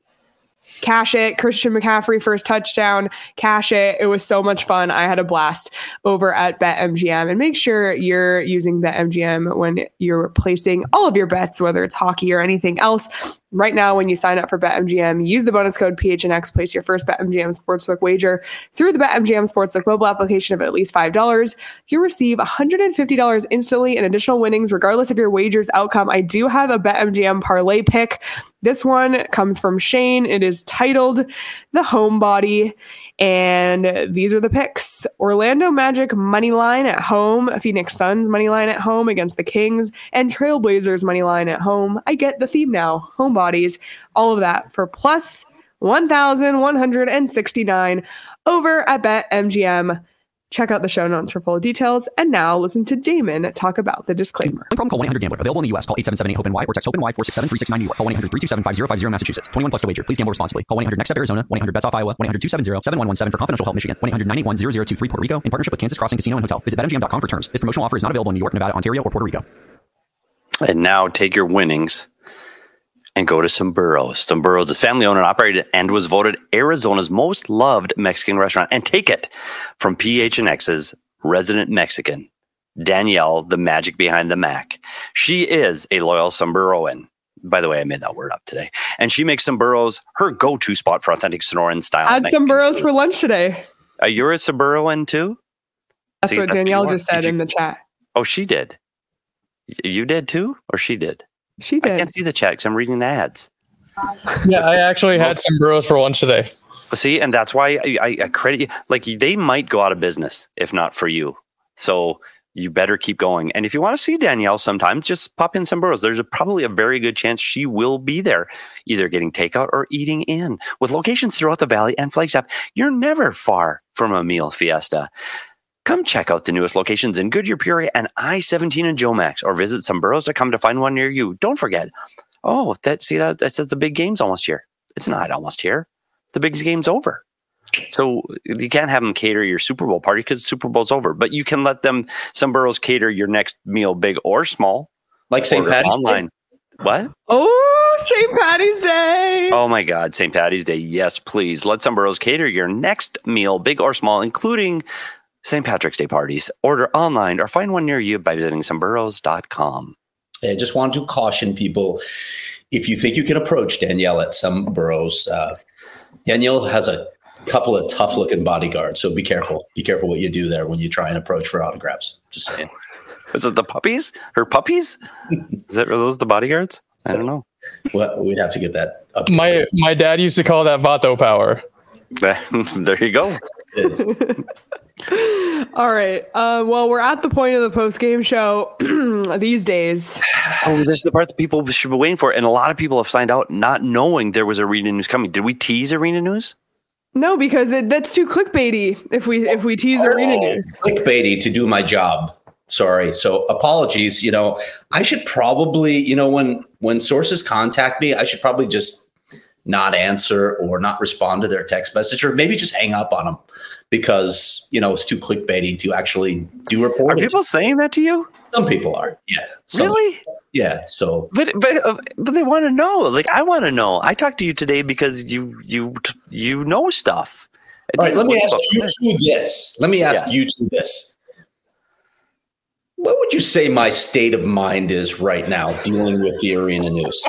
Cash it. Christian McCaffrey first touchdown. Cash it. It was so much fun. I had a blast over at BetMGM. And make sure you're using BetMGM when you're placing all of your bets, whether it's hockey or anything else. right now when you sign up for BetMGM. Use the bonus code P H N X. Place your first BetMGM Sportsbook wager through the BetMGM Sportsbook mobile application of at least five dollars. You receive one hundred fifty dollars instantly in additional winnings, regardless of your wager's outcome. I do have a BetMGM parlay pick. This one comes from Shane. It is titled The Homebody. And these are the picks. Orlando Magic money line at home, Phoenix Suns money line at home against the Kings, and Trailblazers money line at home. I get the theme now. Homebodies. All of that for plus one thousand one hundred sixty-nine over at BetMGM. Check out the show notes for full details. And now listen to Damon talk about the disclaimer. Problem, call one eight hundred gambler. Available in the U S. Call eight seven seven eight hope N Y or text HOPE-NY four six seven three six nine New York. Call one eight hundred three two seven five zero five zero Massachusetts. twenty-one plus to wager. Please gamble responsibly. Call one eight hundred next step Arizona. one eight hundred bets off Iowa. one eight hundred two seven zero seven one one seven for confidential help Michigan. one eight hundred nine eight one zero zero two three Puerto Rico in partnership with Kansas Crossing Casino and Hotel. Visit bet M G M dot com for terms. This promotional offer is not available in New York, Nevada, Ontario, or Puerto Rico. And now take your winnings and go to Sombrros. Sombrros is family owned and operated and was voted Arizona's most loved Mexican restaurant. And take it from P H N X's resident Mexican, Danielle, the magic behind the Mac. She is a loyal Sombreroan. By the way, I made that word up today. And she makes Sombreros her go-to spot for authentic Sonoran style. Had Sombreros for lunch today. Uh, you're a Sombreroan too? That's See, what Danielle what just said you, in the chat. Oh, she did. You did too? Or she did? She did. I can't see the chat because I'm reading the ads. Yeah, I actually had Sombreros for lunch today. See, and that's why I, I, I credit you. Like, they might go out of business if not for you. So you better keep going. And if you want to see Danielle sometime, just pop in Sombreros. There's a, probably a very good chance she will be there, either getting takeout or eating in. With locations throughout the valley and Flagstaff, you're never far from a meal fiesta. Come check out the newest locations in Goodyear, Peoria, and I seventeen in Jomax, or visit Sombreros dot com to find one near you. Don't forget. Oh, that see that that says the big game's almost here. It's not almost here. The big game's over. So you can't have them cater your Super Bowl party because Super Bowl's over. But you can let them, Sombreros, cater your next meal, big or small. Like Saint Patty's online. Day? What? Oh, Saint Patty's Day. Oh, my God. Saint Patty's Day. Yes, please. Let Sombreros cater your next meal, big or small, including Saint Patrick's Day parties. Order online or find one near you by visiting Sombreros dot com. I just want to caution people, if you think you can approach Danielle at Sombreros, uh, Danielle has a couple of tough looking bodyguards. So be careful. Be careful what you do there when you try and approach for autographs. Just saying. Is it the puppies? Her puppies? Is that, are those the bodyguards? I don't know. Well, we'd have to get that up. My my dad used to call that Vato power. There you go. All right. Uh, well, we're at the point of the post-game show these days. Oh, this is the part that people should be waiting for. And a lot of people have signed out not knowing there was arena news coming. Did we tease arena news? No, because it, that's too clickbaity if we if we tease oh, arena news. Clickbaity to do my job. Sorry. So apologies. You know, I should probably, you know, when when sources contact me, I should probably just not answer or not respond to their text message, or maybe just hang up on them because, you know, it's too clickbaity to actually do reporting. Are people saying that to you? Some people are. Yeah. Some, really? Yeah. So, but but uh, but they want to know. Like, I want to know. I talked to you today because you you you know stuff. All right. Let me ask you to this. Let me ask you to this. What would you say my state of mind is right now dealing with the arena news?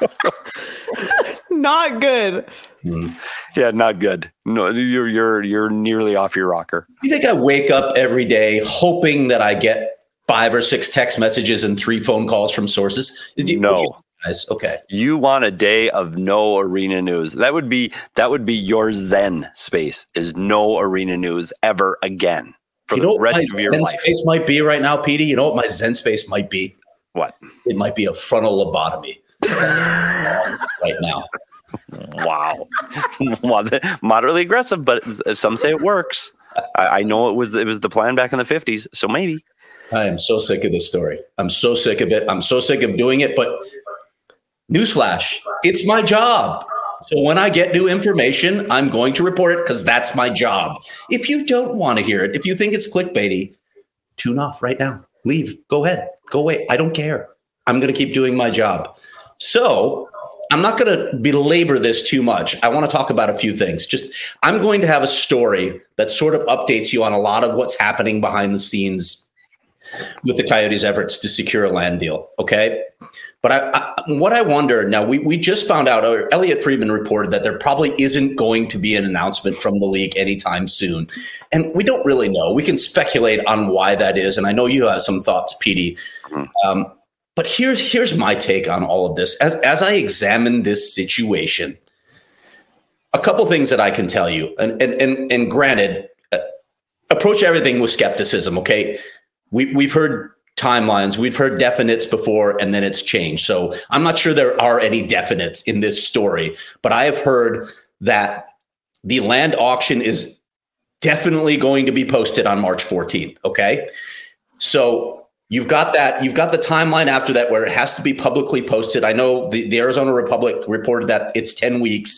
Not good. Hmm. Yeah, not good. No, you're you're you're nearly off your rocker. You think I wake up every day hoping that I get five or six text messages and three phone calls from sources? You, no. You guys, okay. You want a day of no arena news. That would be that would be your Zen space, is no arena news ever again. For you know the rest what my of your Zen life. space might be right now, Petey? You know what my Zen space might be? What? It might be a frontal lobotomy right now. Wow. Moderately aggressive, but some say it works. I, I know it was it was the plan back in the fifties, so maybe. I am so sick of this story. I'm so sick of it. I'm so sick of doing it. But newsflash, it's my job. So when I get new information, I'm going to report it because that's my job. If you don't want to hear it, if you think it's clickbaity, tune off right now. Leave. Go ahead. Go away. I don't care. I'm going to keep doing my job. So I'm not going to belabor this too much. I want to talk about a few things. Just I'm going to have a story that sort of updates you on a lot of what's happening behind the scenes with the Coyotes' efforts to secure a land deal. Okay. But I, I, what I wonder now, we, we just found out, or Elliot Friedman reported that there probably isn't going to be an announcement from the league anytime soon. And we don't really know. We can speculate on why that is. And I know you have some thoughts, Petey. Um, but here's here's my take on all of this. As, as I examine this situation, a couple things that I can tell you. And, and, and, and granted, uh, approach everything with skepticism, okay? We, we've heard timelines. We've heard definites before, and then it's changed. So I'm not sure there are any definites in this story, but I have heard that the land auction is definitely going to be posted on March fourteenth. Okay. So you've got that, you've got the timeline after that where it has to be publicly posted. I know the, the Arizona Republic reported that it's ten weeks.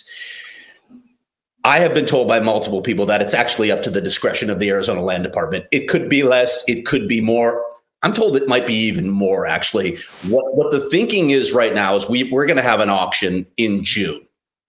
I have been told by multiple people that it's actually up to the discretion of the Arizona Land Department. It could be less, it could be more. I'm told it might be even more, actually. What, what the thinking is right now is we, we're going to have an auction in June.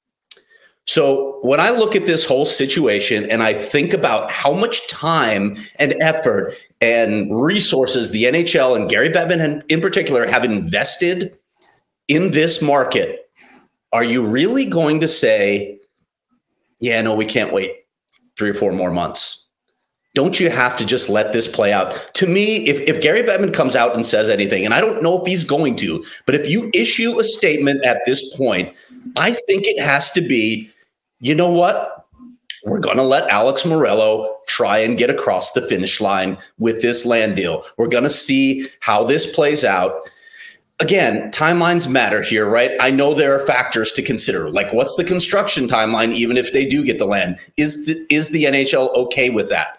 So when I look at this whole situation and I think about how much time and effort and resources the N H L and Gary Bettman in particular have invested in this market, are you really going to say, yeah, no, we can't wait three or four more months? Don't you have to just let this play out? To me, if, if Gary Bettman comes out and says anything, and I don't know if he's going to, but if you issue a statement at this point, I think it has to be, you know what? We're going to let Alex Morello try and get across the finish line with this land deal. We're going to see how this plays out. Again, timelines matter here, right? I know there are factors to consider, like what's the construction timeline, even if they do get the land? Is the, is the N H L okay with that?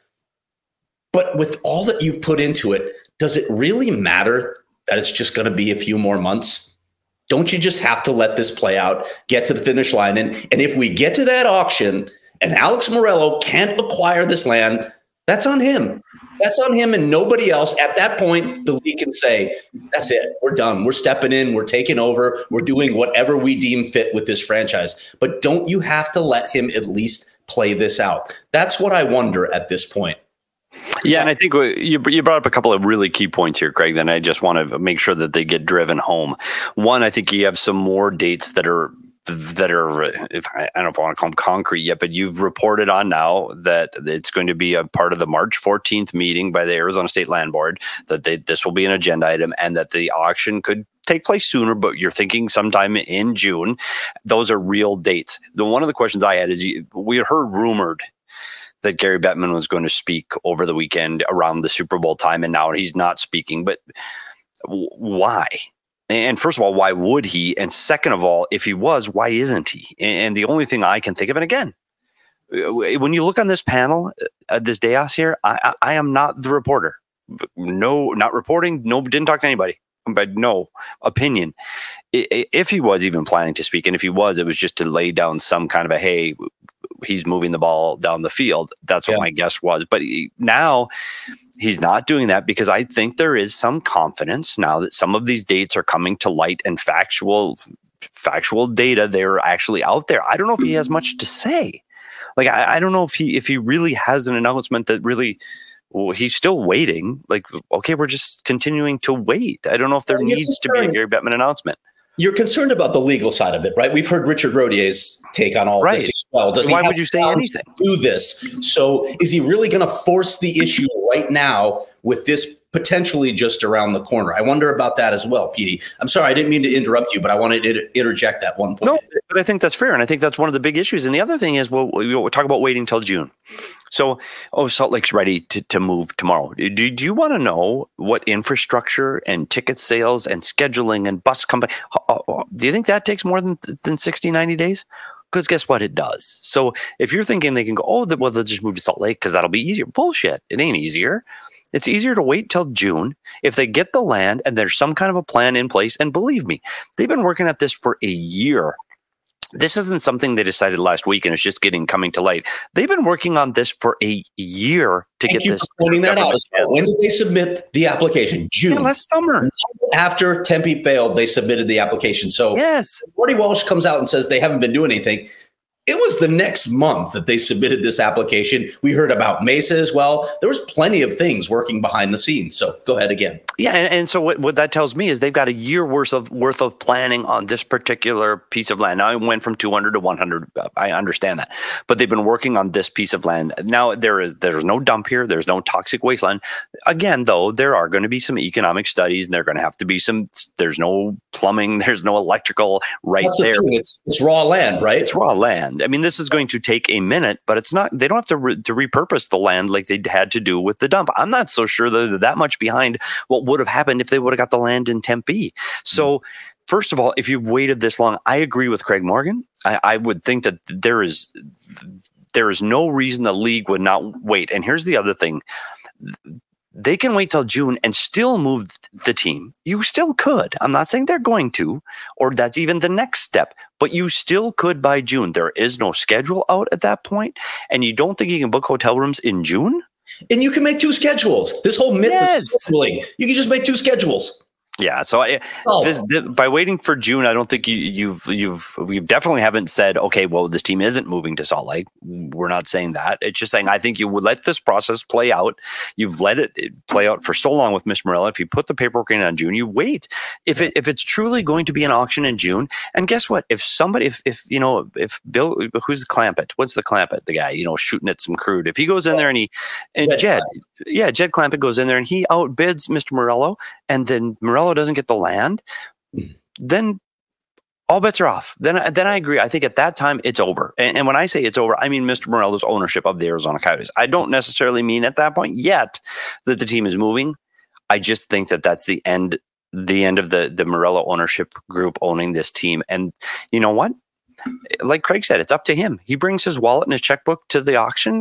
But with all that you've put into it, does it really matter that it's just going to be a few more months? Don't you just have to let this play out, get to the finish line? And, and if we get to that auction and Alex Morello can't acquire this land, that's on him. That's on him and nobody else. At that point, the league can say, that's it. We're done. We're stepping in. We're taking over. We're doing whatever we deem fit with this franchise. But don't you have to let him at least play this out? That's what I wonder at this point. Yeah, and I think you you brought up a couple of really key points here, Craig, that I just want to make sure that they get driven home. One, I think you have some more dates that are that are, if I, I don't know if I want to call them concrete yet, but you've reported on now that it's going to be a part of the March fourteenth meeting by the Arizona State Land Board, that they, this will be an agenda item and that the auction could take place sooner, but you're thinking sometime in June. Those are real dates. The one of the questions I had is you, we heard rumored that Gary Bettman was going to speak over the weekend around the Super Bowl time, and now he's not speaking. But w- why? And first of all, why would he? And second of all, if he was, why isn't he? And the only thing I can think of, and again, when you look on this panel, uh, this dais here, I, I, I am not the reporter. No, not reporting. No, didn't talk to anybody. But no opinion. If he was even planning to speak, and if he was, it was just to lay down some kind of a, hey, he's moving the ball down the field. That's what yeah. my guess was. But he, now he's not doing that because I think there is some confidence now that some of these dates are coming to light and factual, factual data, they're actually out there. I don't know if he has much to say. Like, I, I don't know if he, if he really has an announcement that really, well, he's still waiting. Like, okay, we're just continuing to wait. I don't know if there well, needs to be a Gary Bettman announcement. You're concerned about the legal side of it, right? We've heard Richard Rodier's take on all right. this as well. Does Why he would you say anything? Do this? So is he really going to force the issue right now with this potentially just around the corner? I wonder about that as well, Petey. I'm sorry, I didn't mean to interrupt you, but I wanted to interject that one point. No, but I think that's fair, and I think that's one of the big issues. And the other thing is, well, we'll talk about waiting till June. So, oh, Salt Lake's ready to, to move tomorrow. Do, do you want to know what infrastructure and ticket sales and scheduling and bus company, do you think that takes more than, than sixty, ninety days? Because guess what? It does. So if you're thinking they can go, oh, well, they'll just move to Salt Lake because that'll be easier. Bullshit. It ain't easier. It's easier to wait till June if they get the land and there's some kind of a plan in place. And believe me, they've been working at this for a year. This isn't something they decided last week and it's just getting coming to light. They've been working on this for a year to Thank get you this. For pointing that out. When did they submit the application? June. Yeah, last summer. After Tempe failed, they submitted the application. So yes, Marty Walsh comes out and says they haven't been doing anything. It was the next month that they submitted this application. We heard about Mesa as well. There was plenty of things working behind the scenes. So go ahead again. Yeah, and, and so what, what that tells me is they've got a year worth of worth of planning on this particular piece of land. Now it went from two hundred to one hundred. I understand that, but they've been working on this piece of land. Now there is there's no dump here. There's no toxic wasteland. Again, though, there are going to be some economic studies, and there are going to have to be some. There's no plumbing. There's no electrical right That's there. The it's, it's raw land, right? It's raw land. I mean, this is going to take a minute, but it's not. They don't have to re, to repurpose the land like they had to do with the dump. I'm not so sure that they're that much behind what would have happened if they would have got the land in Tempe. So, first of all, if you've waited this long, I agree with Craig Morgan. I, I would think that there is there is no reason the league would not wait. And here's the other thing. They can wait till June and still move the team. You still could. I'm not saying they're going to, or that's even the next step, but you still could by June. There is no schedule out at that point, and you don't think you can book hotel rooms in June? And you can make two schedules. This whole myth yes. of scheduling, you can just make two schedules. Yeah, so I, oh. this, this, by waiting for June, I don't think you, you've you've we definitely haven't said, okay, well, this team isn't moving to Salt Lake. We're not saying that. It's just saying I think you would let this process play out. You've let it play out for so long with Mister Morello. If you put the paperwork in on June, you wait. If it if it's truly going to be an auction in June, and guess what? If somebody, if if you know, if Bill, who's the Clampett? What's the Clampett? The guy, you know, shooting at some crude. If he goes in there and he and Jed, Jed yeah, Jed Clampett goes in there and he outbids Mister Morello, and then Morello doesn't get the land, then all bets are off. Then, then I agree. I think at that time it's over. And, and when I say it's over, I mean Mister Morello's ownership of the Arizona Coyotes. I don't necessarily mean at that point yet that the team is moving. I just think that that's the end, the end of the the Morello ownership group owning this team. And you know what? Like Craig said, it's up to him. He brings his wallet and his checkbook to the auction,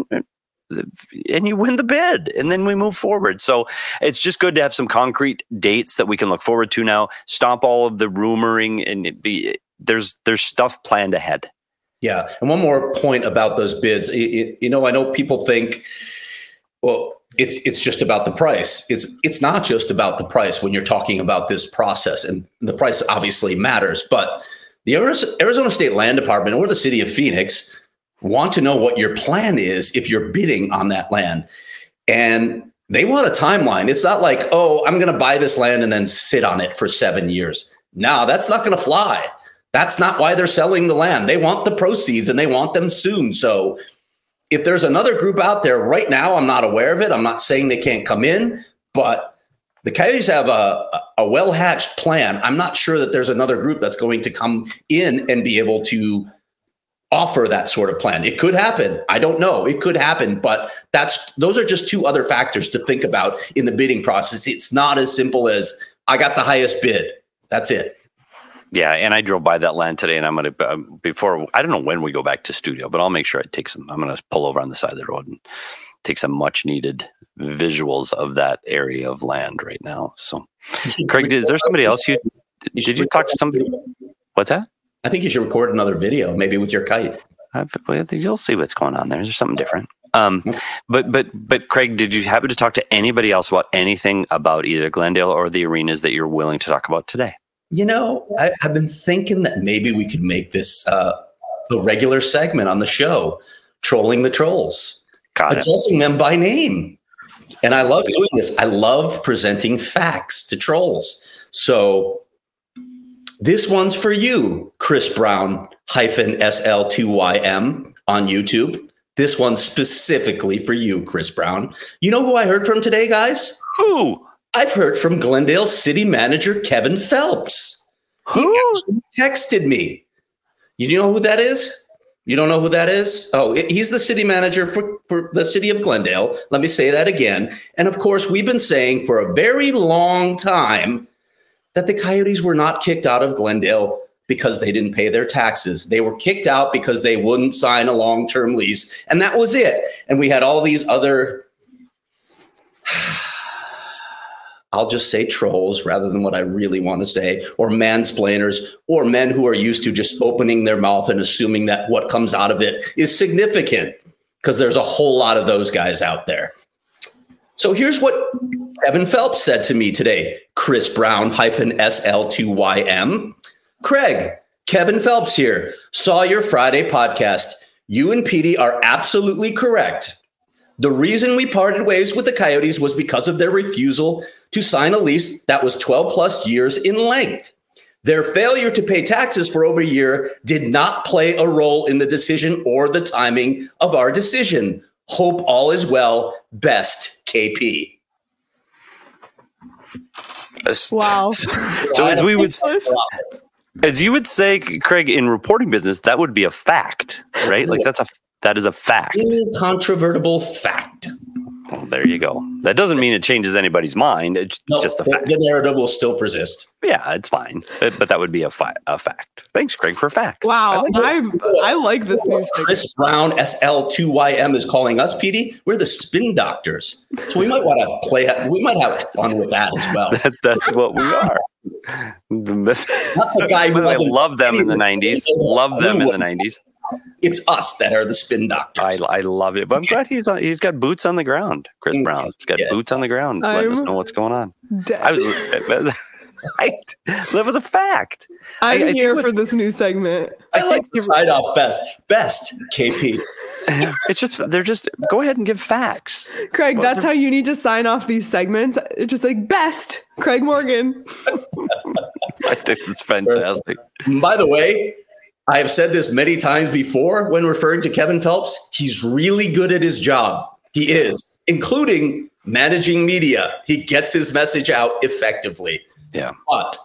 and you win the bid, and then we move forward. So it's just good to have some concrete dates that we can look forward to now. Stop all of the rumoring, and it be there's there's stuff planned ahead. Yeah, and one more point about those bids. It, it, you know, I know people think, well, it's it's just about the price. It's it's not just about the price when you're talking about this process, and the price obviously matters. But the Arizona State Land Department or the City of Phoenix want to know what your plan is if you're bidding on that land. And they want a timeline. It's not like, oh, I'm going to buy this land and then sit on it for seven years. No, that's not going to fly. That's not why they're selling the land. They want the proceeds and they want them soon. So if there's another group out there right now, I'm not aware of it. I'm not saying they can't come in, but the Coyotes have a, a well-hatched plan. I'm not sure that there's another group that's going to come in and be able to offer that sort of plan. It could happen. I don't know. It could happen, but that's those are just two other factors to think about in the bidding process. It's not as simple as I got the highest bid. That's it. Yeah, and I drove by that land today, and I'm going to, uh, before, I don't know when we go back to studio, but I'll make sure I take some, I'm going to pull over on the side of the road and take some much needed visuals of that area of land right now. So, Craig, is there somebody else you, you did you talk to somebody? What's that? I think you should record another video, maybe with your kite. I've, you'll see what's going on there. There's something different. Um, but but but Craig, did you happen to talk to anybody else about anything about either Glendale or the arenas that you're willing to talk about today? You know, I, I've been thinking that maybe we could make this uh, a regular segment on the show, trolling the trolls, Got addressing it. them by name. And I love doing this. I love presenting facts to trolls. So this one's for you, Chris Brown hyphen S L two Y M on YouTube. This one's specifically for you, Chris Brown. You know who I heard from today, guys? Who? I've heard from Glendale City Manager Kevin Phelps. Who? He actually texted me. You know who that is? You don't know who that is? Oh, he's the city manager for, for the city of Glendale. Let me say that again. And of course, we've been saying for a very long time that the Coyotes were not kicked out of Glendale because they didn't pay their taxes. They were kicked out because they wouldn't sign a long-term lease. And that was it. And we had all these other, I'll just say trolls rather than what I really want to say, or mansplainers, or men who are used to just opening their mouth and assuming that what comes out of it is significant, because there's a whole lot of those guys out there. So here's what Kevin Phelps said to me today, Chris Brown hyphen S L two Y M. Craig, Kevin Phelps here. Saw your Friday podcast. You and Petey are absolutely correct. The reason we parted ways with the Coyotes was because of their refusal to sign a lease that was twelve plus years in length. Their failure to pay taxes for over a year did not play a role in the decision or the timing of our decision. Hope all is well. Best, K P. Wow. So as we would as you would say, Craig, in reporting business, that would be a fact, right? Like that's a that is a fact. Incontrovertible fact. Well, there you go. That doesn't mean it changes anybody's mind. It's no, just a the, fact. The narrative will still persist. Yeah, it's fine. But, but that would be a, fi- a fact. Thanks, Craig, for facts. Wow. I, like I, I like this news. Chris Brown, S L two Y M, is calling us, Petey. We're the spin doctors. So we might want to play, we might have fun with that as well. that, that's what we are. Not the guy who I love them in the nineties. Love them in the nineties. It's us that are the spin doctors. I, I love it, but I'm glad he's on, he's got boots on the ground. Chris Brown, he's got yeah. boots on the ground, I'm letting us know what's going on. Dead. I was, I, that was a fact. I'm I, I here for this new segment. I, I like to side off best, best K P. It's just they're just go ahead and give facts, Craig. Well, that's how you need to sign off these segments. It's just like best, Craig Morgan. I think it's fantastic. By the way, I have said this many times before when referring to Kevin Phelps. He's really good at his job. He is, including managing media. He gets his message out effectively. Yeah. But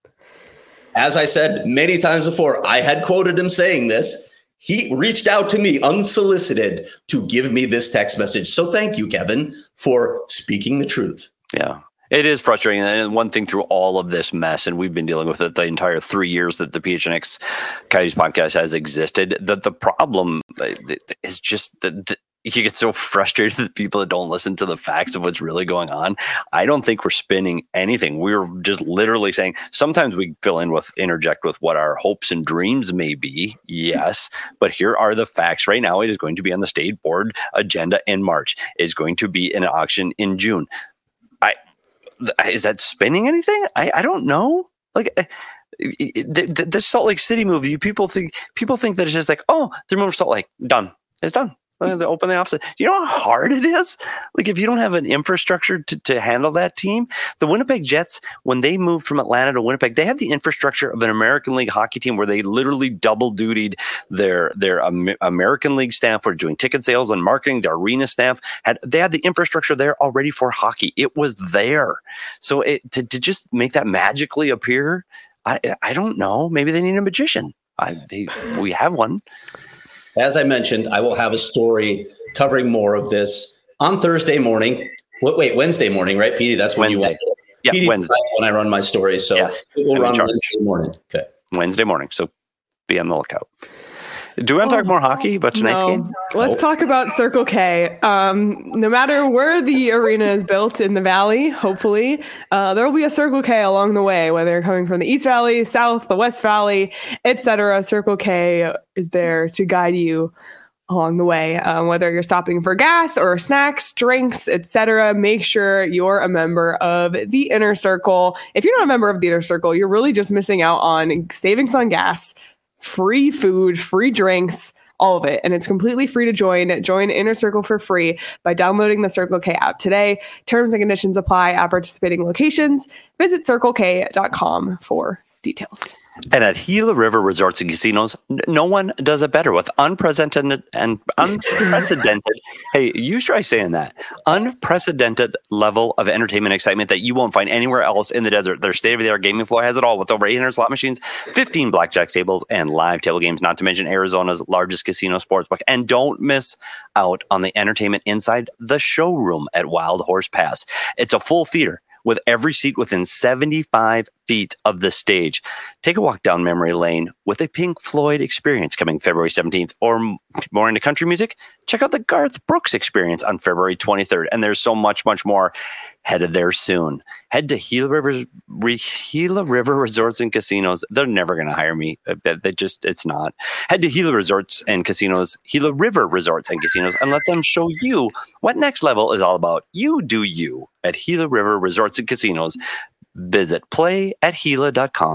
as I said many times before, I had quoted him saying this. He reached out to me unsolicited to give me this text message. So thank you, Kevin, for speaking the truth. Yeah. It is frustrating. And one thing through all of this mess, and we've been dealing with it the entire three years that the P H N X Coyotes podcast has existed, that the problem is just that you get so frustrated with people that don't listen to the facts of what's really going on. I don't think we're spinning anything. We're just literally saying sometimes we fill in with, interject with what our hopes and dreams may be. Yes. But here are the facts. Right now, it is going to be on the state board agenda in March. It's going to be an auction in June. I, Is that spinning anything? I, I don't know. Like the, the, the Salt Lake City move, you people think people think that it's just like, oh, they're moving to Salt Lake, done. It's done. They open the office. You know how hard it is? Like if you don't have an infrastructure to, to handle that team, the Winnipeg Jets, when they moved from Atlanta to Winnipeg, they had the infrastructure of an American League hockey team where they literally double dutied their their um, American League staff were doing ticket sales and marketing. The arena staff had they had the infrastructure there already for hockey. It was there. So it, to to just make that magically appear, I I don't know. Maybe they need a magician. I they, we have one. As I mentioned, I will have a story covering more of this on Thursday morning. Wait, wait Wednesday morning, right, Petey? That's when Wednesday. you want it. Yeah, Petey Wednesday. decides when I run my stories, so yes. it will run Wednesday morning. Okay, Wednesday morning. So be on the lookout. Do we want to talk more hockey about tonight's no. game? Let's talk about Circle K. Um, no matter where the arena is built in the Valley, hopefully, uh, there will be a Circle K along the way, whether you're coming from the East Valley, South, the West Valley, et cetera. Circle K is there to guide you along the way, um, whether you're stopping for gas or snacks, drinks, et cetera. Make sure you're a member of the Inner Circle. If you're not a member of the Inner Circle, you're really just missing out on savings on gas, free food, free drinks, all of it. And it's completely free to join. Join Inner Circle for free by downloading the Circle K app today. Terms and conditions apply at participating locations. Visit circle k dot com for details. And at Gila River Resorts and Casinos, n- no one does it better with unprecedented and unprecedented. Hey, you try saying that. Unprecedented level of entertainment excitement that you won't find anywhere else in the desert. Their state-of-the-art gaming floor has it all with over eight hundred slot machines, fifteen blackjack tables, and live table games, not to mention Arizona's largest casino sportsbook. And don't miss out on the entertainment inside the showroom at Wild Horse Pass. It's a full theater with every seat within seventy-five feet of the stage. Take a walk down memory lane with a Pink Floyd experience coming February seventeenth, or more into country music, check out the Garth Brooks experience on February twenty-third. And there's so much, much more headed there soon. Head to Gila River, Gila River Resorts and Casinos. They're never going to hire me. They just, it's not. Head to Gila Resorts and Casinos, Gila River Resorts and Casinos, and let them show you what Next Level is all about. You do you at Gila River Resorts and Casinos. Visit play at gila dot com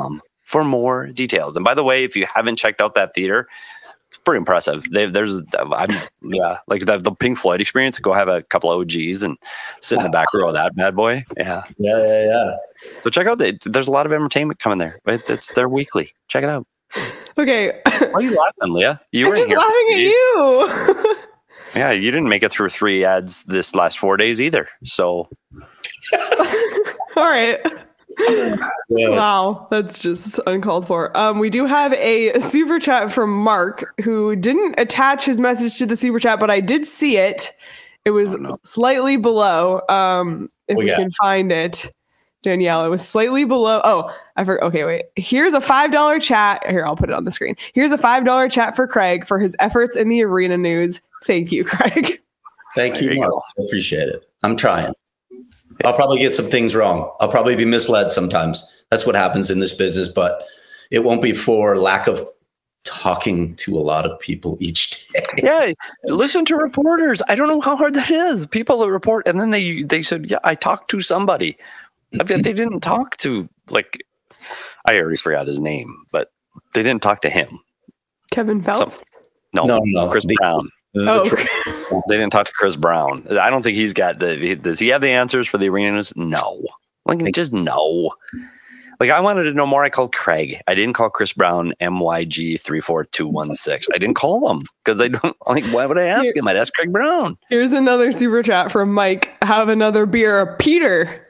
for more details. And by the way, if you haven't checked out that theater, it's pretty impressive. They, there's, I'm, yeah, like the, the Pink Floyd experience. Go have a couple of O Gs and sit in the back row of that bad boy. Yeah, yeah, yeah, yeah. So check out the, there's a lot of entertainment coming there. Right? It's their weekly. Check it out. Okay. Why are you laughing, Leah? You I'm were just here laughing at you. Yeah, you didn't make it through three ads this last four days either. So, all right. Yeah. Wow, that's just uncalled for. Um, we do have a super chat from Mark, who didn't attach his message to the super chat, but I did see it. It was oh, no. slightly below. Um, if oh, we yeah. can find it, Danielle, it was slightly below. Oh, I forgot. Okay, wait. Here's a five dollar chat. Here, I'll put it on the screen. Here's a five dollar chat for Craig for his efforts in the arena news. Thank you, Craig. Thank you, Mark. I appreciate it. I'm trying. I'll probably get some things wrong. I'll probably be misled sometimes. That's what happens in this business, but it won't be for lack of talking to a lot of people each day. Yeah, listen to reporters. I don't know how hard that is. People that report, and then they they said, yeah, I talked to somebody. I mean, they didn't talk to, like, I already forgot his name, but they didn't talk to him. Kevin Phelps? Some, no, no, no, Chris the, Brown. The, oh, the okay. They didn't talk to Chris Brown. I don't think he's got the. Does he have the answers for the arena news? No. Like, just no. Like, I wanted to know more. I called Craig. I didn't call Chris Brown M Y G three four two one six. I didn't call him because I don't. Like, why would I ask Here, him? I'd ask Craig Brown. Here's another super chat from Mike. Have another beer, Peter.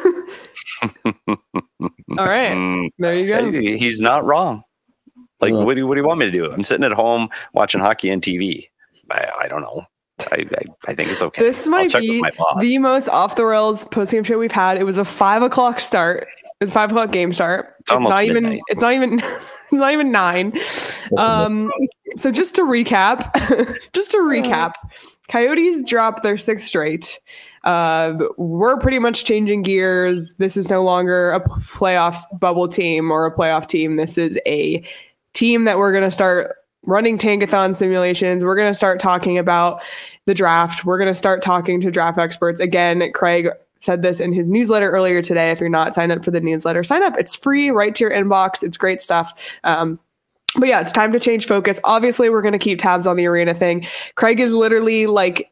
All right, there you go. He's not wrong. Like, what do you, what do you want me to do? I'm sitting at home watching hockey on T V. I, I don't know. I, I I think it's okay. This might be the most off the rails postgame show we've had. It was a five o'clock start. It was five o'clock game start. It's, it's not midnight. even. It's not even. It's not even nine. Um. So just to recap, just to recap, Coyotes dropped their sixth straight. Uh, we're pretty much changing gears. This is no longer a playoff bubble team or a playoff team. This is a team that we're going to start running tankathon simulations. We're going to start talking about the draft. We're going to start talking to draft experts. Again, Craig said this in his newsletter earlier today. If you're not signed up for the newsletter, sign up. It's free, right to your inbox. It's great stuff. Um, but yeah, it's time to change focus. Obviously, we're going to keep tabs on the arena thing. Craig is literally like,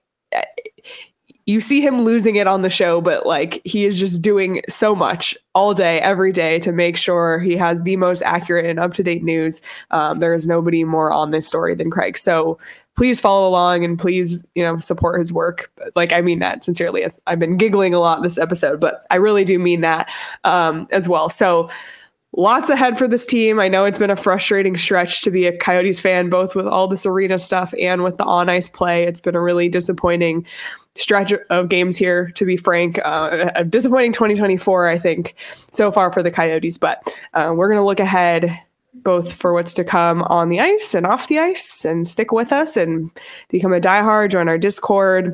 you see him losing it on the show, but like he is just doing so much all day, every day to make sure he has the most accurate and up-to-date news. Um, there is nobody more on this story than Craig. So please follow along and please, you know, support his work. Like, I mean that sincerely. It's, I've been giggling a lot this episode, but I really do mean that um, as well. So lots ahead for this team. I know it's been a frustrating stretch to be a Coyotes fan, both with all this arena stuff and with the on-ice play. It's been a really disappointing stretch of games here, to be frank. Uh, a disappointing twenty twenty-four, I think, so far for the Coyotes. But uh, we're going to look ahead both for what's to come on the ice and off the ice, and stick with us and become a diehard, join our Discord.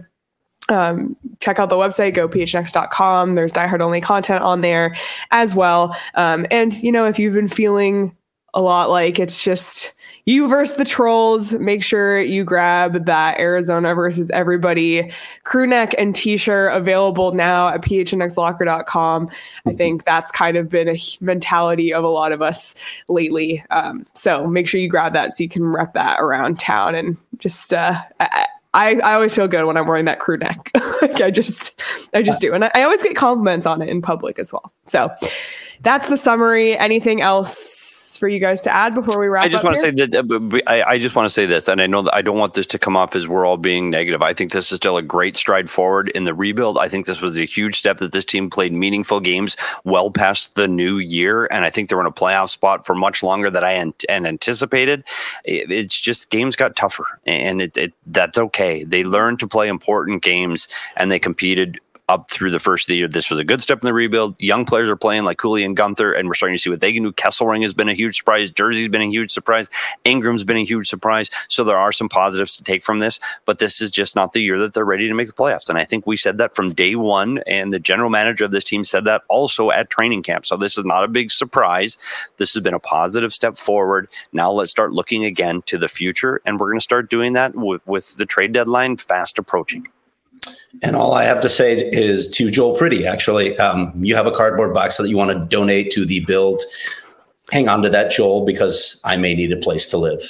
Um, check out the website, go p h n x dot com. There's diehard only content on there as well. Um, and, you know, if you've been feeling a lot like it's just you versus the trolls, make sure you grab that Arizona versus everybody crew neck and t-shirt, available now at p h n x locker dot com. I think that's kind of been a mentality of a lot of us lately. Um, so make sure you grab that so you can rep that around town and just, uh, I, I, I always feel good when I'm wearing that crew neck. Like I just, I just do. And I, I always get compliments on it in public as well. So that's the summary. Anything else for you guys to add before we wrap up? I just want here? to say that uh, I, I just want to say this, and I know that I don't want this to come off as we're all being negative. I think this is still a great stride forward in the rebuild. I think this was a huge step that this team played meaningful games well past the new year, and I think they're in a playoff spot for much longer than I an- and anticipated. It, it's just games got tougher, and it, it that's okay. They learned to play important games, and they competed up through the first of the year. This was a good step in the rebuild. Young players are playing like Cooley and Gunther, and we're starting to see what they can do. Kesselring has been a huge surprise. Jersey's been a huge surprise. Ingram's been a huge surprise. So there are some positives to take from this, but this is just not the year that they're ready to make the playoffs. And I think we said that from day one, and the general manager of this team said that also at training camp. So this is not a big surprise. This has been a positive step forward. Now let's start looking again to the future, and we're going to start doing that with, with the trade deadline fast approaching. And all I have to say is to Joel Pretty, actually, um, you have a cardboard box that you want to donate to the Build hang on to that, Joel, because I may need a place to live.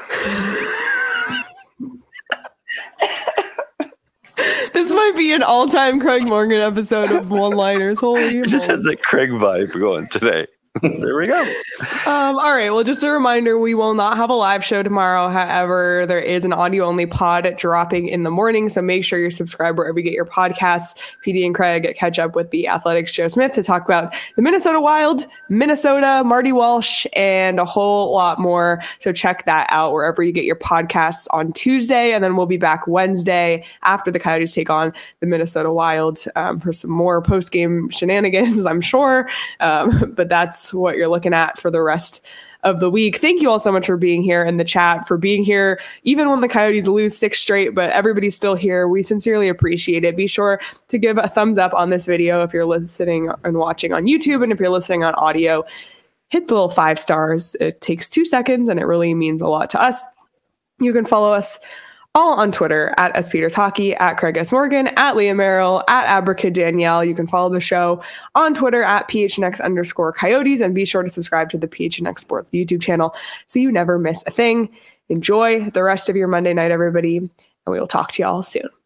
This might be an all-time Craig Morgan episode of one-liners. Holy It just has that Craig vibe going today. There we go. Um, all right. Well, just a reminder, we will not have a live show tomorrow. However, there is an audio-only pod dropping in the morning. So make sure you're subscribed wherever you get your podcasts. P D and Craig catch up with the Athletics' Joe Smith to talk about the Minnesota Wild, Minnesota, Marty Walsh, and a whole lot more. So check that out wherever you get your podcasts on Tuesday. And then we'll be back Wednesday after the Coyotes take on the Minnesota Wild um, for some more post-game shenanigans, I'm sure. Um, but that's what you're looking at for the rest of the week. Thank you all so much for being here in the chat, for being here even when the Coyotes lose six straight, but everybody's still here. We sincerely appreciate it. Be sure to give a thumbs up on this video if you're listening and watching on YouTube, and if you're listening on audio, hit the little five stars. It takes two seconds and it really means a lot to us. You can follow us all on Twitter at S Peters Hockey, at Craig S. Morgan, at Leah Merrill, at Abracad Danielle. You can follow the show on Twitter at P H N X underscore Coyotes, and be sure to subscribe to the P H N X Sports YouTube channel so you never miss a thing. Enjoy the rest of your Monday night, everybody, and we will talk to you all soon.